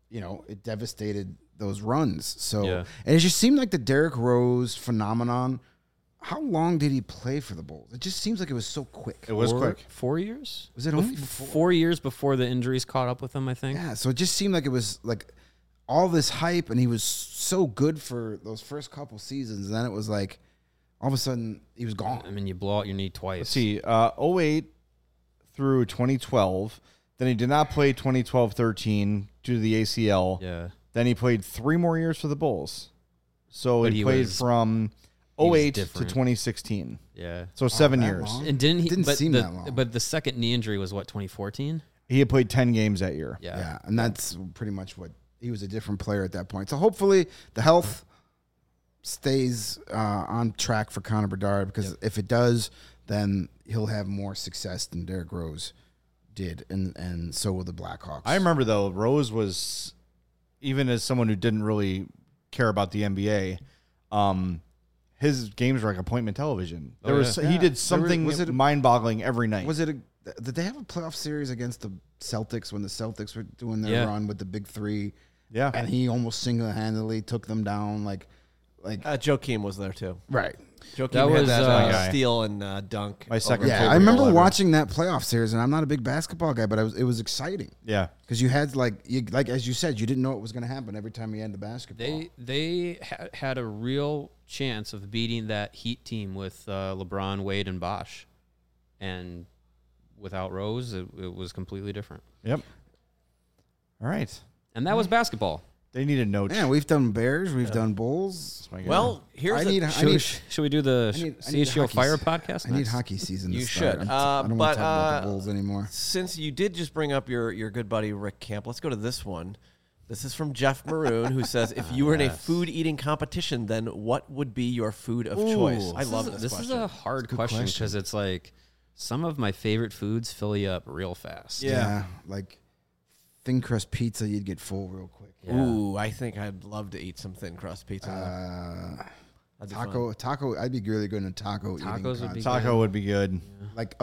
it devastated those runs. So Yeah. and it just seemed like the Derrick Rose phenomenon. How long did he play for the Bulls? It just seems like it was so quick. It was quick. 4 years? Was it only 4 years before the injuries caught up with him, I think. Yeah, so it just seemed like it was like all this hype, and he was so good for those first couple seasons. And then it was like all of a sudden he was gone. I mean, you blow out your knee twice. Let's see, 08 through 2012. Then he did not play 2012-13 due to the ACL. Yeah. Then he played 3 more years for the Bulls. So But he he played was- from he was 08 to different. 2016. Yeah. So 7 that years. long? And didn't he? Didn't but seem the, that long. But the second knee injury was what, 2014? He had played 10 games that year. Yeah, and that's pretty much what he was a different player at that point. So hopefully the health stays on track for Connor Bedard because if it does, then he'll have more success than Derrick Rose did, and so will the Blackhawks. I remember, though, Rose was, even as someone who didn't really care about the NBA, his games were like appointment television. There was yeah. He did There something was it- mind-boggling every night. Was it did they have a playoff series against the Celtics when the Celtics were doing their Yeah. run with the big three? Yeah. And he almost single-handedly took them down like Joakim was there too. right. Joakim That had was, that my guy. steal and dunk. My second over- Yeah, favorite I remember goal ever. watching that playoff series, and I'm not a big basketball guy, but it was exciting Yeah. because you had like as you said, you didn't know what was going to happen every time you ended the basketball. They had a real chance of beating that Heat team with LeBron, Wade, and Bosh. And without Rose, it was completely different. Yep. All right. And that was basketball. They need a note. Yeah, we've done Bears, we've done Bulls. My God. Well, here's I a- need Should we do the I need CHGO hockey Fire se- podcast? I need next? hockey season. To You start. should. I don't want But, to talk about the Bulls anymore. Since you did just bring up your good buddy Rick Camp, let's go to this one. This is from Jeff Maroon, who says, if you were in a Yes. food eating competition, then what would be your food of choice? I love this This question. is a hard good question question. because it's like some of my favorite foods fill you up real fast. Yeah. Like thin crust pizza, you'd get full real quick. Yeah. Ooh, I think I'd love to eat some thin crust pizza. That'd be fun. Taco. I'd be really good in a taco. eating Tacos would be contest. Taco would be good. like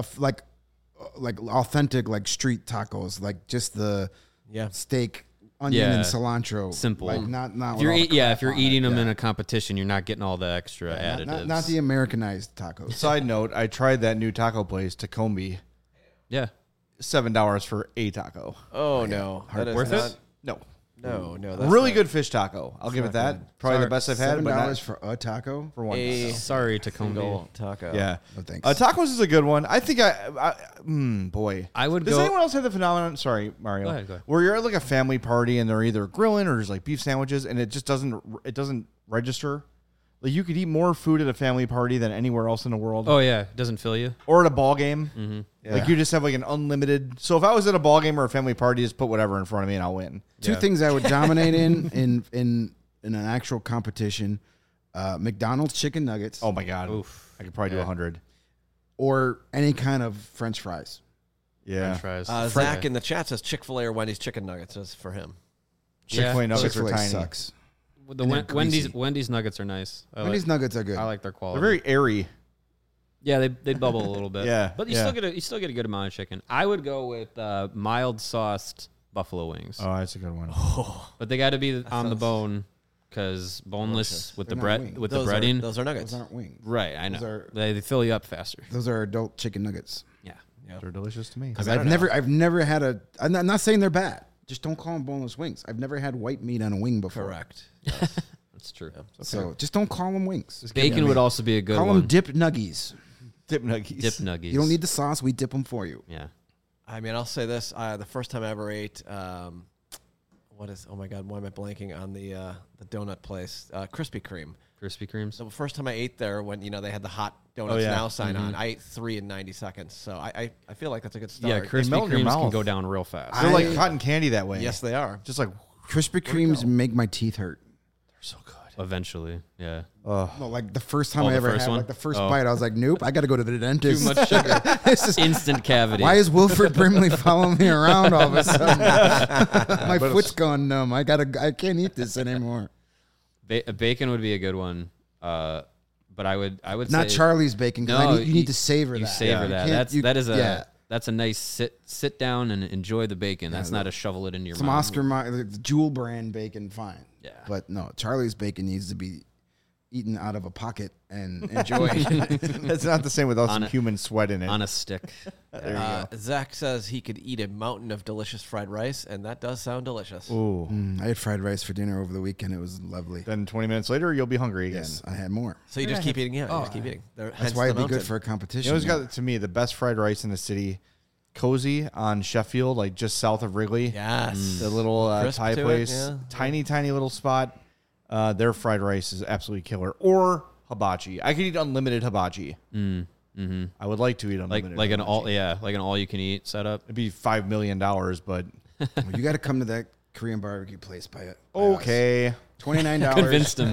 authentic like street tacos, like just the Yeah. steak, onion, Yeah. and cilantro. Simple. Like not. If with you're all the crap if you're on it. eating them Yeah. in a competition, you're not getting all the extra Yeah, additives. not the Americanized tacos. Side note, I tried that new taco place, Tacombe. yeah. $7 for a taco. Oh, no. That is Worth not, it? No. No, that's Really not- good fish taco. I'll give it not that. Probably the best I've had, but $7 not for a taco. for one A taco. Sorry, Tacombe. single taco. Yeah. No thanks. Tacos is a good one. I think boy. I would Does go. anyone else have the phenomenon? Sorry, Mario. Go ahead. Where you're at like a family party and they're either grilling or there's like beef sandwiches and it just doesn't register. Like you could eat more food at a family party than anywhere else in the world, Oh yeah, doesn't fill you. or at a ball game. Yeah. Like you just have like an unlimited. So if I was at a ball game or a family party, just put whatever in front of me and I'll win. Two things I would dominate in an actual competition: McDonald's chicken nuggets, Oh my god, Oof. I could probably do Yeah. 100. or any kind of French fries. Yeah, French fries. Zach in the chat says Chick-fil-A or Wendy's chicken nuggets is for him. Chick-fil-A Yeah. nuggets are Chick-fil-A tiny. sucks. The and they're greasy. Wendy's nuggets are nice. Wendy's nuggets are good. I like their They're quality. very airy. Yeah, they bubble a little bit. Yeah, but you still get a good amount of chicken. I would go with mild sauced buffalo wings, Oh, that's a good one. but they got to be on the bone because boneless with the They're not bread wings. with the Those breading. Those are nuggets. Those aren't wings. Right, I Those know. are- They fill you up faster. Those are adult chicken nuggets. Yeah. They're delicious to me. Because I I've don't know. never had a. I'm not saying they're bad. Just don't call them boneless wings. I've never had white meat on a wing before. Correct. That's true. So just don't call them wings. Bacon would also be a good Call one. them dip nuggies. Dip nuggies. Dip nuggies. You don't need the sauce. We dip them for you. Yeah. I mean, I'll say this: the first time I ever ate, what is? Oh my God, why am I blanking on the donut place? Krispy Kreme. Krispy Kremes. So the first time I ate there, when they had the hot donuts yeah. now sign on, I ate 3 in 90 seconds. So I feel like that's a good start. Yeah, Krispy melt in your Kremes can mouth. go down real fast. They're like cotton candy that way. Yes, they are. Just like Krispy Kremes make my teeth hurt. they're so good. Eventually, yeah. No, like the first time Oh, I the ever first had, one? like the first Oh. bite, I was like, nope, I got to go to the dentist. Too much sugar. This is- Instant cavity. why is Wilford Brimley following me around all of a sudden? My foot's gone numb. I can't eat this anymore. Bacon would be a good one. But I would Not say Charlie's bacon. 'Cause you need to savor you that. savor You that. can't- That's a nice sit down and enjoy the bacon. That's not a shovel it into your some mouth. Oscar Jewel brand bacon, fine. Yeah. But no, Charlie's bacon needs to be eaten out of a pocket and enjoyed. It's not the same without some a- human sweat in it. on a stick. Zach says he could eat a mountain of delicious fried rice, and that does sound delicious. Ooh. I had fried rice for dinner over the weekend. It was lovely. Then 20 minutes later, you'll be hungry again. Yes, I had more. So you just keep eating, you just keep eating. That's why it'd be good for a competition. You know who's got, to me, the best fried rice in the city? Cozy on Sheffield, like just south of Wrigley. Yes. The little Crisp Thai to it, place. yeah. Tiny little spot. Their fried rice is absolutely killer. Or hibachi. I could eat unlimited hibachi. I would like to eat unlimited like an hibachi. like an all you can eat setup. It'd be $5 million, but Well, you got to come to that Korean barbecue place by it. okay. $29. Convinced him.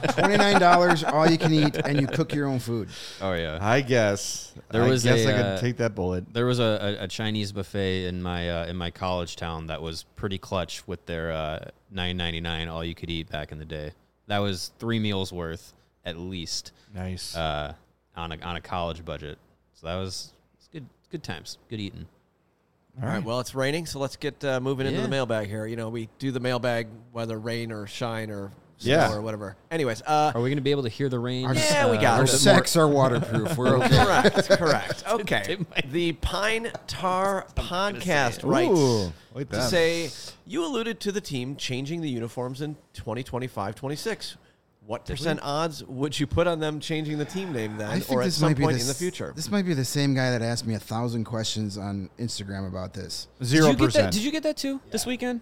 $29, all you can eat, and you cook your own food. Oh yeah. I guess. There I was guess a, I could take that bullet. There was a Chinese buffet in my college town that was pretty clutch with their $9.99 all you could eat back in the day. That was 3 meals worth at least Nice. on a college budget. So that was good times, good eating. All right. Well, it's raining, so let's get moving into Yeah. the mailbag here. You know, we do the mailbag whether rain or shine or snow Yeah. or whatever. Anyways, Are we going to be able to hear the rain? Yeah, we got Our it. sacks are waterproof. We're okay. correct. Okay. The Pine Tar Podcast writes Ooh, like to that. say, you alluded to the team changing the uniforms in 2025-26. What percent odds would you put on them changing the team name then, I think or at this some might be point in the future? This might be the same guy that asked me 1,000 questions on Instagram about this. 0%. Did you get that too this weekend?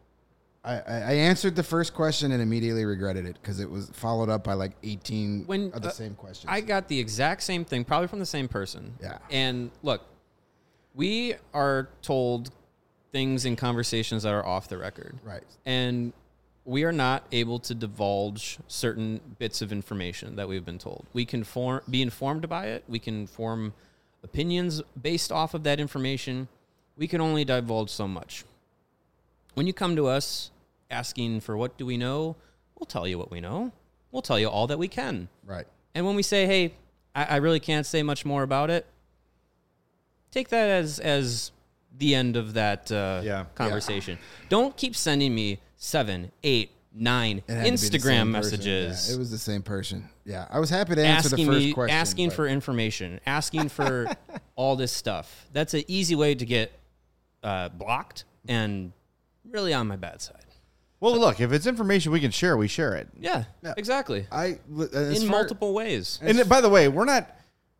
I answered the first question and immediately regretted it because it was followed up by like 18 of the same questions. I got the exact same thing, probably from the same person. Yeah. And look, we are told things in conversations that are off the record. Right. And we are not able to divulge certain bits of information that we've been told. We can be informed by it. We can form opinions based off of that information. We can only divulge so much. When you come to us asking for what do we know, we'll tell you what we know. We'll tell you all that we can. Right. And when we say, hey, I really can't say much more about it, take that as the end of that conversation. Don't keep sending me 7, 8, 9 It had to be the Instagram same person. messages. Yeah, it was the same person. Yeah. I was happy to answer the first question. Asking but- for information, asking for all this stuff. That's an easy way to get blocked and really on my bad side. Well, look, if it's information we can share, we share it. Yeah, exactly. as In far- multiple ways. And by the way, we're not,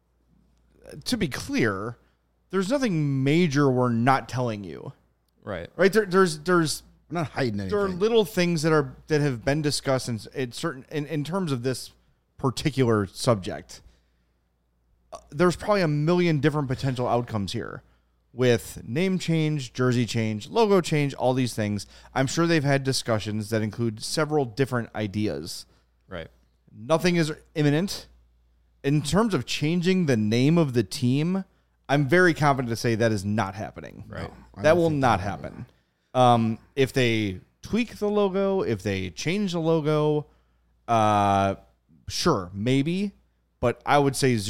to be clear, there's nothing major we're not telling you. Right. Right? There's I'm not hiding anything. there are little things that have been discussed in terms of this particular subject. There's probably a million different potential outcomes here with name change, jersey change, logo change, all these things. I'm sure they've had discussions that include several different ideas. Right. Nothing is imminent. In terms of changing the name of the team, I'm very confident to say that is not happening. Right. That will not happen. If they tweak the logo, if they change the logo, sure, maybe. but I would say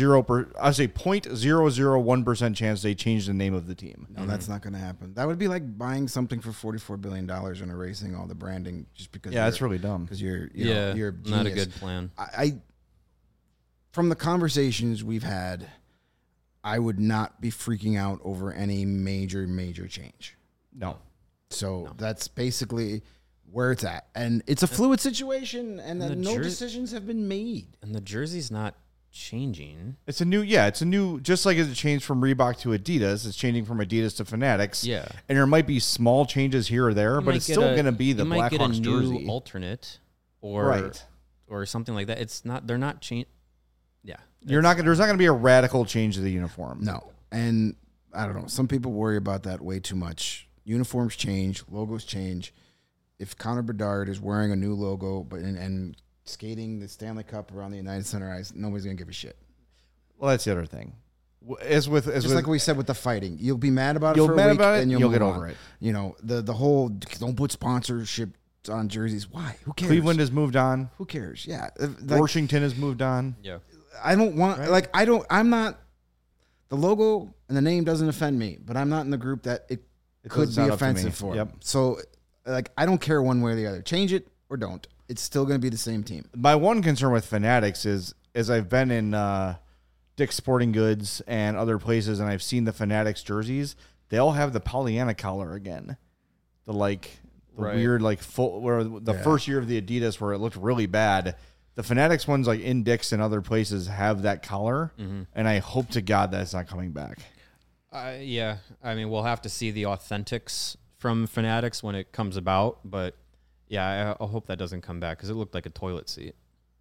0.001% chance they change the name of the team. No, that's not going to happen. That would be like buying something for $44 billion and erasing all the branding just because. Yeah, that's really dumb. Because you're not a good plan. I from the conversations we've had, I would not be freaking out over any major change. No. So that's basically where it's at, and it's a fluid situation, and no decisions have been made. And the jersey's not changing. It's a new, just like as it changed from Reebok to Adidas, it's changing from Adidas to Fanatics. Yeah. And there might be small changes here or there, but it's still going to be the Blackhawks jersey. You might get a new alternate or something like that. It's not, they're not changing. Yeah. There's not going to be a radical change to the uniform. No. And I don't know. Some people worry about that way too much. Uniforms change, logos change. If Connor Bedard is wearing a new logo and skating the Stanley Cup around the United Center ice, nobody's going to give a shit. Well, that's the other thing. Like we said with the fighting, you'll be mad about it for a week, and you'll get over it. You know, the whole don't put sponsorship on jerseys. Why? Who cares? Cleveland has moved on. Who cares? Yeah. Washington has moved on. Yeah. I don't want, I'm not, the logo and the name doesn't offend me, but I'm not in the group that it could be offensive for. Yep. So, I don't care one way or the other. Change it or don't. It's still going to be the same team. My one concern with Fanatics is I've been in Dick's Sporting Goods and other places, and I've seen the Fanatics jerseys. They all have the Pollyanna collar again. The weird full, where the first year of the Adidas where it looked really bad. The Fanatics ones like in Dick's and other places have that collar, and I hope to God that's not coming back. Yeah, I mean, we'll have to see the authentics from Fanatics when it comes about, but yeah, I hope that doesn't come back because it looked like a toilet seat.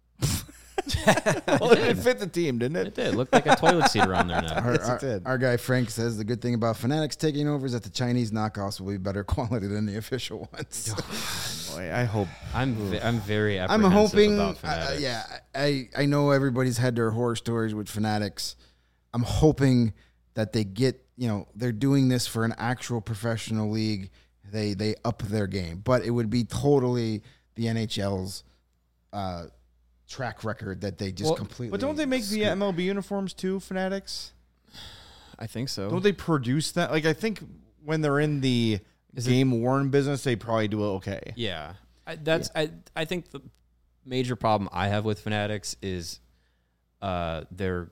Well, it fit the team, didn't it? It did. It looked like a toilet seat around there now. Our guy Frank says the good thing about Fanatics taking over is that the Chinese knockoffs will be better quality than the official ones. Boy, I hope. I'm very apprehensive about Fanatics. I know everybody's had their horror stories with Fanatics. I'm hoping that they get, they're doing this for an actual professional league. They up their game, but it would be totally the NHL's track record that they just completely. But don't they make the MLB uniforms too, Fanatics? I think so. Don't they produce that? Like, I think when they're in the game worn business, they probably do it okay. Yeah, I think the major problem I have with Fanatics is their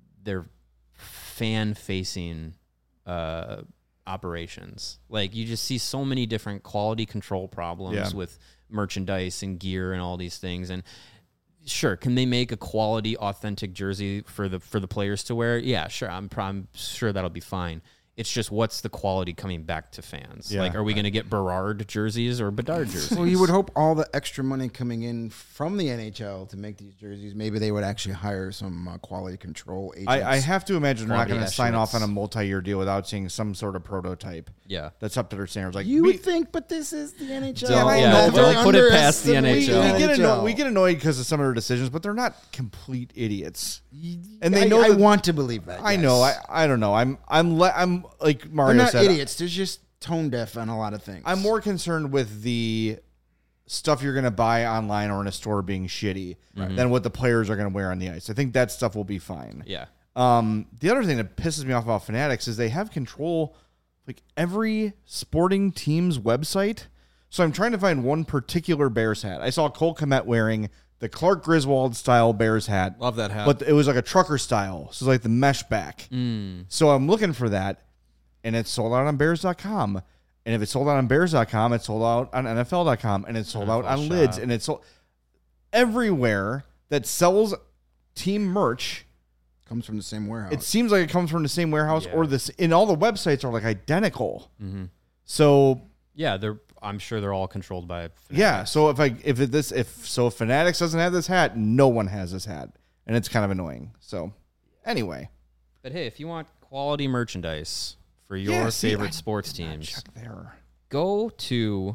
fan facing operations. Like, you just see so many different quality control problems with merchandise and gear and all these things. And sure, can they make a quality, authentic jersey for the players to wear? Yeah, sure. I'm sure that'll be fine. It's just, what's the quality coming back to fans? Yeah, like, are we going to get Berard jerseys or Bedard jerseys? Well, you would hope all the extra money coming in from the NHL to make these jerseys, maybe they would actually hire some quality control agents. I have to imagine they're not going to sign off on a estimates. multi-year deal without seeing some sort of prototype. Yeah. That's up to their standards. Like, You would think, but this is the NHL. Don't put it past the NHL. We get annoyed because of some of their decisions, but they're not complete idiots. And they know I want to believe that. I know. I don't know. I'm like Mario They're not said. idiots. They're just tone deaf on a lot of things. I'm more concerned with the stuff you're going to buy online or in a store being shitty than what the players are going to wear on the ice. I think that stuff will be fine. Yeah. The other thing that pisses me off about Fanatics is they have control like every sporting team's website. So I'm trying to find one particular Bears hat. I saw Cole Kmet wearing the Clark Griswold style Bears hat. Love that hat. But it was like a trucker style. So it's like the mesh back. So I'm looking for that, and it's sold out on Bears.com. And if it's sold out on Bears.com, it's sold out on NFL.com, and it's sold out on Lids, and it's sold everywhere that sells team merch. Comes from the same warehouse. It seems like it comes from the same warehouse, or this. And all the websites are like identical. Mm-hmm. So Yeah, I'm sure they're all controlled by Fanatics. yeah. So if Fanatics doesn't have this hat, no one has this hat, and it's kind of annoying. So anyway, But hey, if you want quality merchandise for your favorite sports teams, check there. go to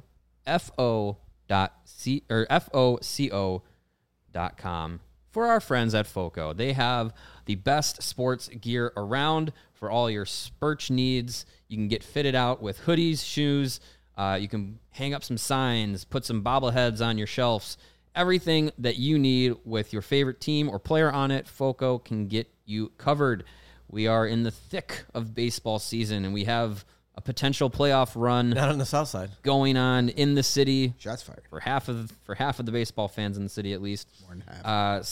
foco.com for our friends at Foco. They have the best sports gear around for all your Spurch needs. You can get fitted out with hoodies, shoes. You can hang up some signs, put some bobbleheads on your shelves, everything that you need with your favorite team or player on it, FOCO can get you covered. We are in the thick of baseball season, and we have a potential playoff run Not on the south side. going on in the city. Shots fired. For half of the baseball fans in the city, at least. More than half.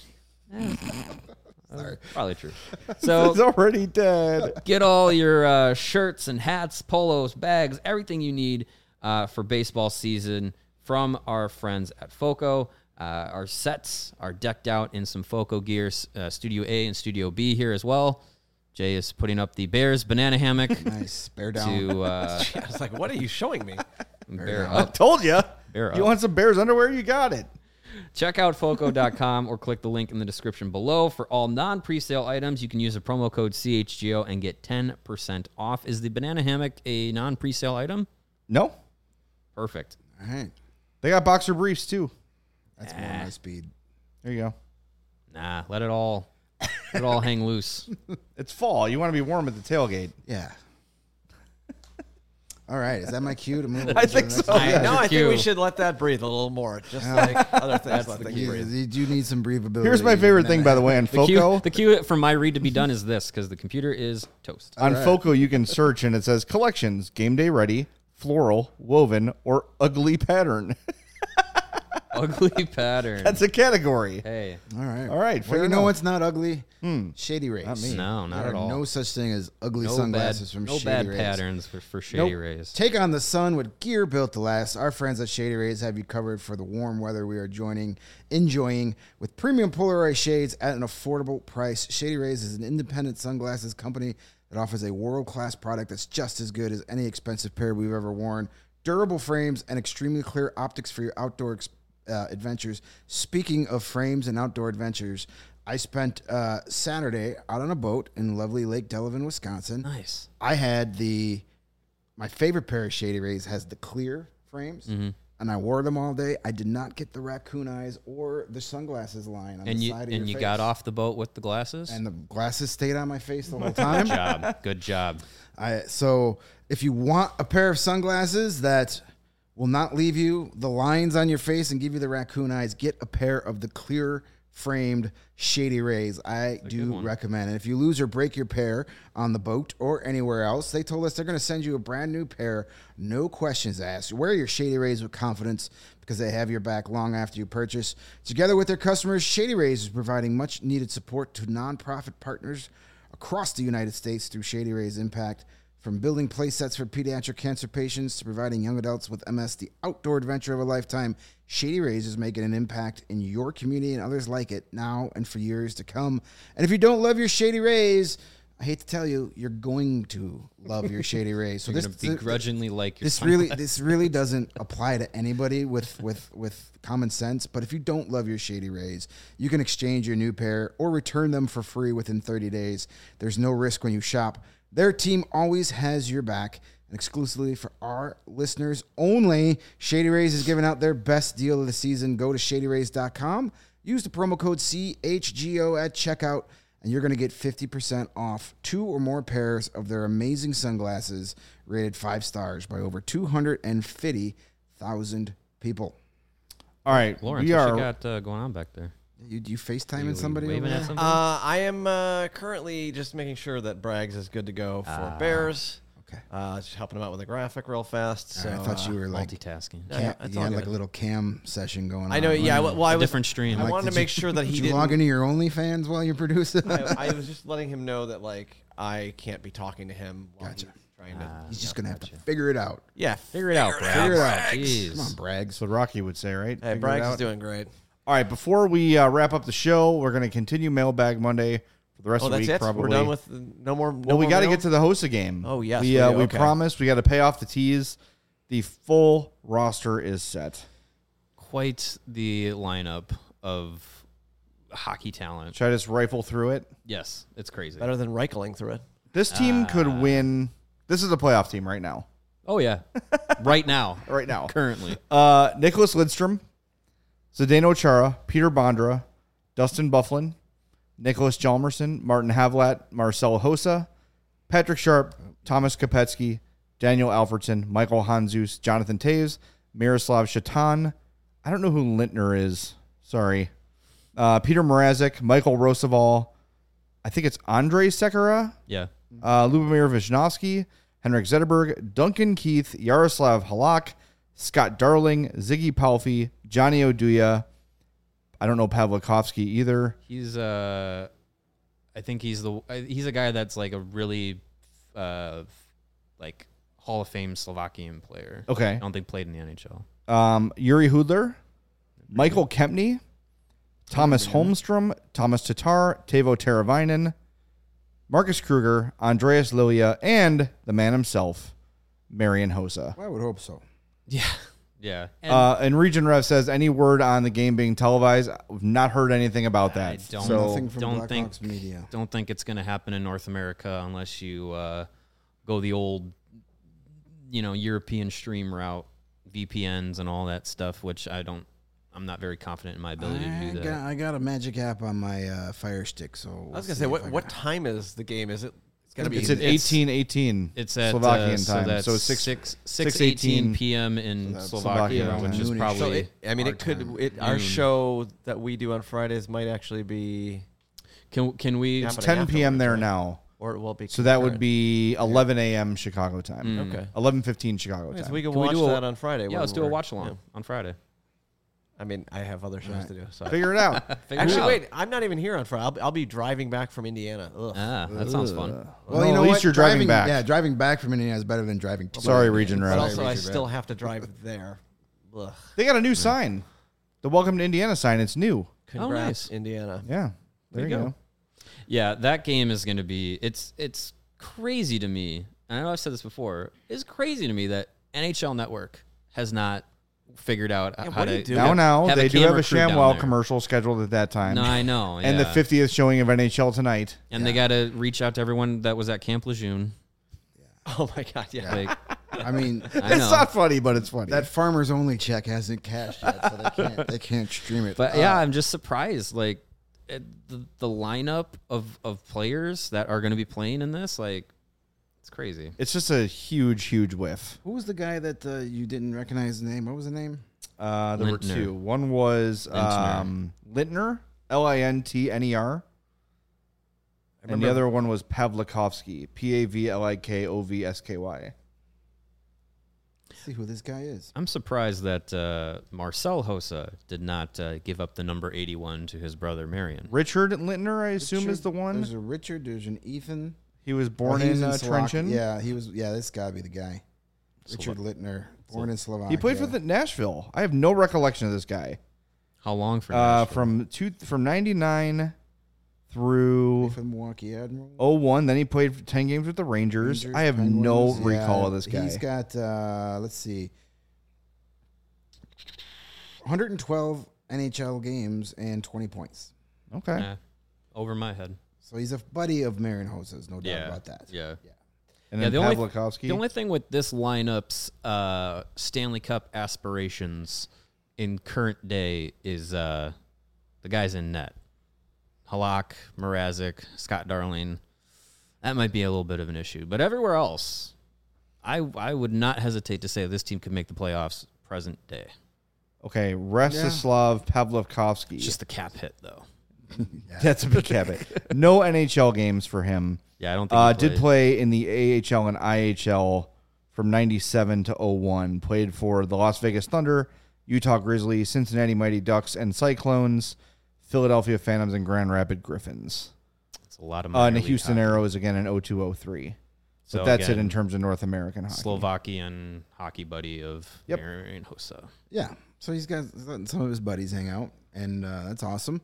Sorry. Probably true. So It's already dead. get all your shirts and hats, polos, bags, everything you need for baseball season from our friends at FOCO. Our sets are decked out in some FOCO gear, Studio A and Studio B here as well. Jay is putting up the Bears banana hammock. Nice. Bear down. To I was like, what are you showing me? bear I up. told you. Bear You up. want some Bears underwear? You got it. Check out FOCO.com or click the link in the description below. For all non-presale items, you can use the promo code CHGO and get 10% off. Is the banana hammock a non-presale item? No. Perfect. All right. They got boxer briefs, too. That's more my speed. There you go. Nah, let it all hang loose. It's fall. You want to be warm at the tailgate. Yeah. All right. Is that my cue to move? I think so. Yeah. No, I think Cue. we should let that breathe a little more. Just like other things, let things breathe. You do need some breathability. Here's my favorite thing, by the way, on FOCO. The cue for my read to be done is this, because the computer is toast. On FOCO, you can search, and it says collections, game day ready, floral, woven, or ugly pattern. Ugly pattern. That's a category. Hey. All right. All right, Well, fair you know enough. what's not ugly? Shady Rays. Not me. No, not There at are all. no such thing as ugly No sunglasses bad, from no Shady bad Rays. patterns for Shady Nope. Rays. Take on the sun with gear built to last. Our friends at Shady Rays have you covered for the warm weather we are enjoying with premium polarized shades at an affordable price. Shady Rays is an independent sunglasses company that offers a world-class product that's just as good as any expensive pair we've ever worn. Durable frames and extremely clear optics for your outdoor adventures. Speaking of frames and outdoor adventures, I spent Saturday out on a boat in lovely Lake Delavan, Wisconsin. Nice. I had my favorite pair of Shady Rays has the clear frames, and I wore them all day. I did not get the raccoon eyes or the sunglasses line on And the you side of your you face. got off the boat with the glasses? And the glasses stayed on my face the whole time. Good job. So if you want a pair of sunglasses that will not leave you the lines on your face and give you the raccoon eyes, get a pair of the clear framed Shady Rays. I do recommend it. If you lose or break your pair on the boat or anywhere else, they told us they're going to send you a brand new pair, no questions asked. Wear your Shady Rays with confidence because they have your back long after you purchase. Together with their customers, Shady Rays is providing much needed support to nonprofit partners across the United States through Shady Rays Impact. From building play sets for pediatric cancer patients to providing young adults with MS the outdoor adventure of a lifetime, Shady Rays is making an impact in your community and others like it now and for years to come. And if you don't love your Shady Rays, I hate to tell you, you're going to love your Shady Rays. So You're going to begrudgingly like your this really doesn't apply to anybody with common sense. But if you don't love your Shady Rays, you can exchange your new pair or return them for free within 30 days. There's no risk when you shop. Their team always has your back. And exclusively for our listeners only, Shady Rays is giving out their best deal of the season. Go to shadyrays.com. Use the promo code CHGO at checkout, and you're going to get 50% off 2 or more pairs of their amazing sunglasses rated 5 stars by over 250,000 people. All right. Lawrence, we what are. you got going on back there? You FaceTiming You somebody over waving at there? something? I am currently just making sure that Braggs is good to go for Bears. Okay. Just helping him out with a graphic real fast. So, I thought you were like Multitasking. it's you all had good. like a little cam session going on. I know. Yeah. Well, I was Different stream. I Like, wanted to make sure that he Did you didn't. log into your OnlyFans while you're producing? I was just letting him know that like I can't be talking to him while Gotcha. he's trying to. He's just gonna have to figure it out. Yeah. Figure it out, Brad. Figure it out. Jeez. Come on, Braggs. That's what Rocky would say, right? Hey, Figure it Braggs out. is doing great. All right, before we wrap up the show, we're going to continue Mailbag Monday for the rest Oh, of the that's week. it. Probably. We're done with no more. Well, we got to get to the host game. Oh, yes, we we do. we Okay. promised we got to pay off the teas. The full roster is set. Quite the lineup of hockey talent. Should I just rifle through it? Yes, it's crazy. better than Reichling through it. This team could win. This is a playoff team right now. Oh, yeah. Right now. Right now. Currently. Nicholas Lidstrom, Zdeno Chara, Peter Bondra, Dustin Bufflin, Nicholas Hjalmarsson, Martin Havlat, Marcelo Hossa, Patrick Sharp, Thomas Kopetsky, Daniel Alfredson, Michael Hanzus, Jonathan Taves, Miroslav Shatan, I don't know who Lintner is. Sorry. Peter Mrazek, Michael Roosevelt. I think it's Andrei Sekera. Yeah. Lubomir Visnovsky, Henrik Zetterberg, Duncan Keith, Yaroslav Halak, Scott Darling, Ziggy Palffy, Johnny Oduya. I don't know Pavlikovsky either. He's I think he's a guy that's like a really like Hall of Fame Slovakian player. Okay. I don't think played in the NHL. Yuri Hudler, Michael Kempney, Thomas Holmstrom, Thomas Tatar, Teuvo Teravainen, Marcus Kruger, Andreas Lilia, and the man himself, Marian Hossa. I would hope so. Yeah. Yeah. And Region Rev says, any word on the game being televised? We've not heard anything about that. Nothing from Blackhawks media. Don't think it's going to happen in North America unless you go the old, European stream route, VPNs and all that stuff, which I'm not very confident in my ability to do that. I got a magic app on my Fire Stick, so I was gonna say, what time is the game? Is it? It's gonna be. It's at 18:18. It's at Slovakian so time. that's So it's 6:18 p.m. in Slovakia, Slovakia which is time. probably. Our show that we do on Fridays might actually be. Can we? Yeah, It's but 10 p.m. there right? now. Or it will be. So that would be 11 a.m. Chicago time. Okay. 11:15 Chicago Okay, time. so we can Can we watch do that on Friday. Yeah, when let's do a we're- watch along yeah. on Friday. I mean, I have other shows to do. So Figure it out. actually, wait, I'm not even here on Friday. I'll be driving back from Indiana. Ugh. That sounds fun. Well, you know at least what? you're driving back. Yeah, driving back from Indiana is better than driving to Sorry, Indiana. Region But Rev. also, I Region still Rev. have to drive there. Ugh. They got a new sign. The Welcome to Indiana sign. It's new. Congrats, nice. Indiana. Yeah. There you go. Yeah, that game is going to be. It's crazy to me. And I know I've said this before. It's crazy to me that NHL Network has not figured out how what do to. you do? Now, have they do have camera a crew down ShamWow there. commercial scheduled at that time. No, I know. And the yeah. 50th showing of NHL tonight. And they got to reach out to everyone that was at Camp Lejeune. Oh my God, yeah. Like, I mean, I It's know. not funny, but it's funny. that farmers only check hasn't cashed yet, so they can't stream it. But yeah, I'm just surprised. Like the lineup of players that are going to be playing in this, like it's crazy. It's just a huge, huge whiff. who was the guy that you didn't recognize the name? What was the name? There were Lintner. two. One was Lintner. Lintner, Lintner. And the other one was Pavlikovsky, Pavlikovsky. Let's see who this guy is. I'm surprised that Marcel Hossa did not give up the number 81 to his brother Marion. Richard Lintner, I assume, is the one. There's a Richard. There's an Ethan. He was born He's in Slovakia. Trenčín. Yeah, he was. Yeah, this gotta be the guy. Richard Lintner, born in Slovakia. He played for the Nashville. I have no recollection of this guy. How long for Nashville? From 99 through from Milwaukee Admiral. 01. Then he played 10 games with the Rangers. I have no Penguins. recall Yeah, of this guy. He's got let's see, 112 NHL games and 20 points. Okay. Eh, over my head. So he's a buddy of Marian Hossa's, no doubt Yeah, about that. yeah. And Yeah, then the only- Pavlikovsky. The only thing with this lineup's Stanley Cup aspirations in current day is the guys in net. Halak, Mrazek, Scott Darling. That might be a little bit of an issue. But everywhere else, I would not hesitate to say this team could make the playoffs present day. Okay, Rostislav Pavlikovsky. It's just the cap hit, though. That's a big habit. No NHL games for him. Yeah, I don't think he Did play in the AHL and IHL from 97 to 01. Played for the Las Vegas Thunder, Utah Grizzlies, Cincinnati Mighty Ducks and Cyclones, Philadelphia Phantoms, and Grand Rapids Griffins. It's a lot of And minor the league Houston hockey. Arrows again in 02-03. So But that's again, it in terms of North American hockey. Slovakian hockey buddy of Yep. Marian Hossa. Yeah. So he's got some of his buddies hang out, and that's awesome.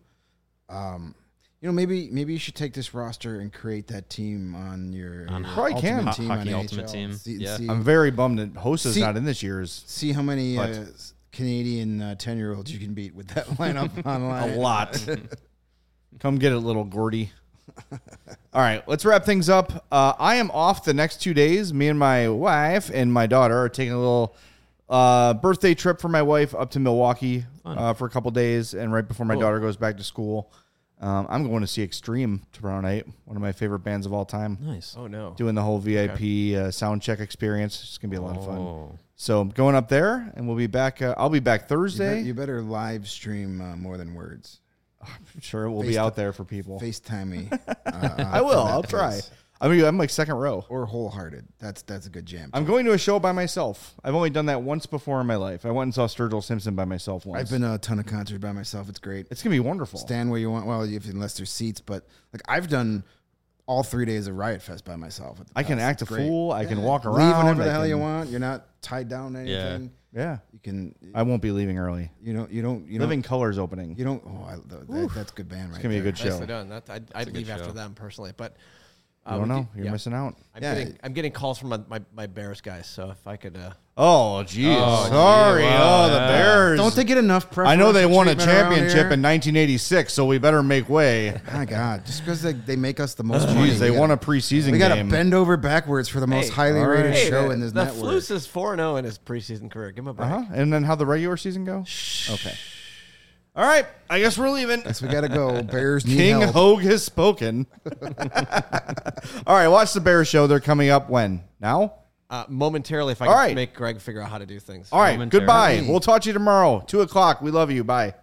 Maybe you should take this roster and create that team on your Probably can. ultimate team Hockey on Ultimate NHL. Team. Yeah. I'm very bummed that Hosa's See- not in this year's. See how many But- Canadian 10-year-olds you can beat with that lineup online. A lot. Come get it, little Gordy. All right, let's wrap things up. I am off the next 2 days. Me and my wife and my daughter are taking a little birthday trip for my wife up to Milwaukee for a couple days, and right before my daughter goes back to school. I'm going to see Extreme tomorrow night, one of my favorite bands of all time. Nice. Oh, no. Doing the whole VIP sound check experience. It's going to be a lot of fun. Oh. So I'm going up there, and we'll be back. I'll be back Thursday. You better live stream More Than Words. I'm sure it will be out there for people. FaceTime me. I will. I'll try. I mean, I'm like second row. Or Wholehearted. That's a good jam. I'm going to a show by myself. I've only done that once before in my life. I went and saw Sturgill Simpson by myself once. I've been to a ton of concerts by myself. It's great. It's going to be wonderful. Stand where you want. Well, unless there's seats, but like I've done all 3 days of Riot Fest by myself. I can act a fool. I can walk around. Leave whenever the hell you want. You're not tied down to anything. Yeah. You can. I won't be leaving early. You don't. Living Colors opening. You don't. That's a good band, right? It's gonna be a good show. Nicely done. I'd leave after them personally, but I don't know. You're missing out. I'm getting calls from my Bears guys, so if I could. Oh, geez. Sorry. Wow, the Bears. Don't they get enough preferential I know they won a treatment around championship here? in 1986, so we better make way. My God, just because they make us the most money. Jeez, they won a preseason We got to game. bend over backwards for the most highly rated show in this the network. Flus is 4-0 in his preseason career. Give him a break. And then how'd the regular season go? Okay. All right. I guess we're leaving. Yes, we got to go. Bears need King help. Hogue has spoken. All right. Watch the Bears show. They're coming up when? Now? Momentarily, if I All can right. make Greg figure out how to do things. All right. Momentarily. Goodbye. We'll talk to you tomorrow. 2:00. We love you. Bye.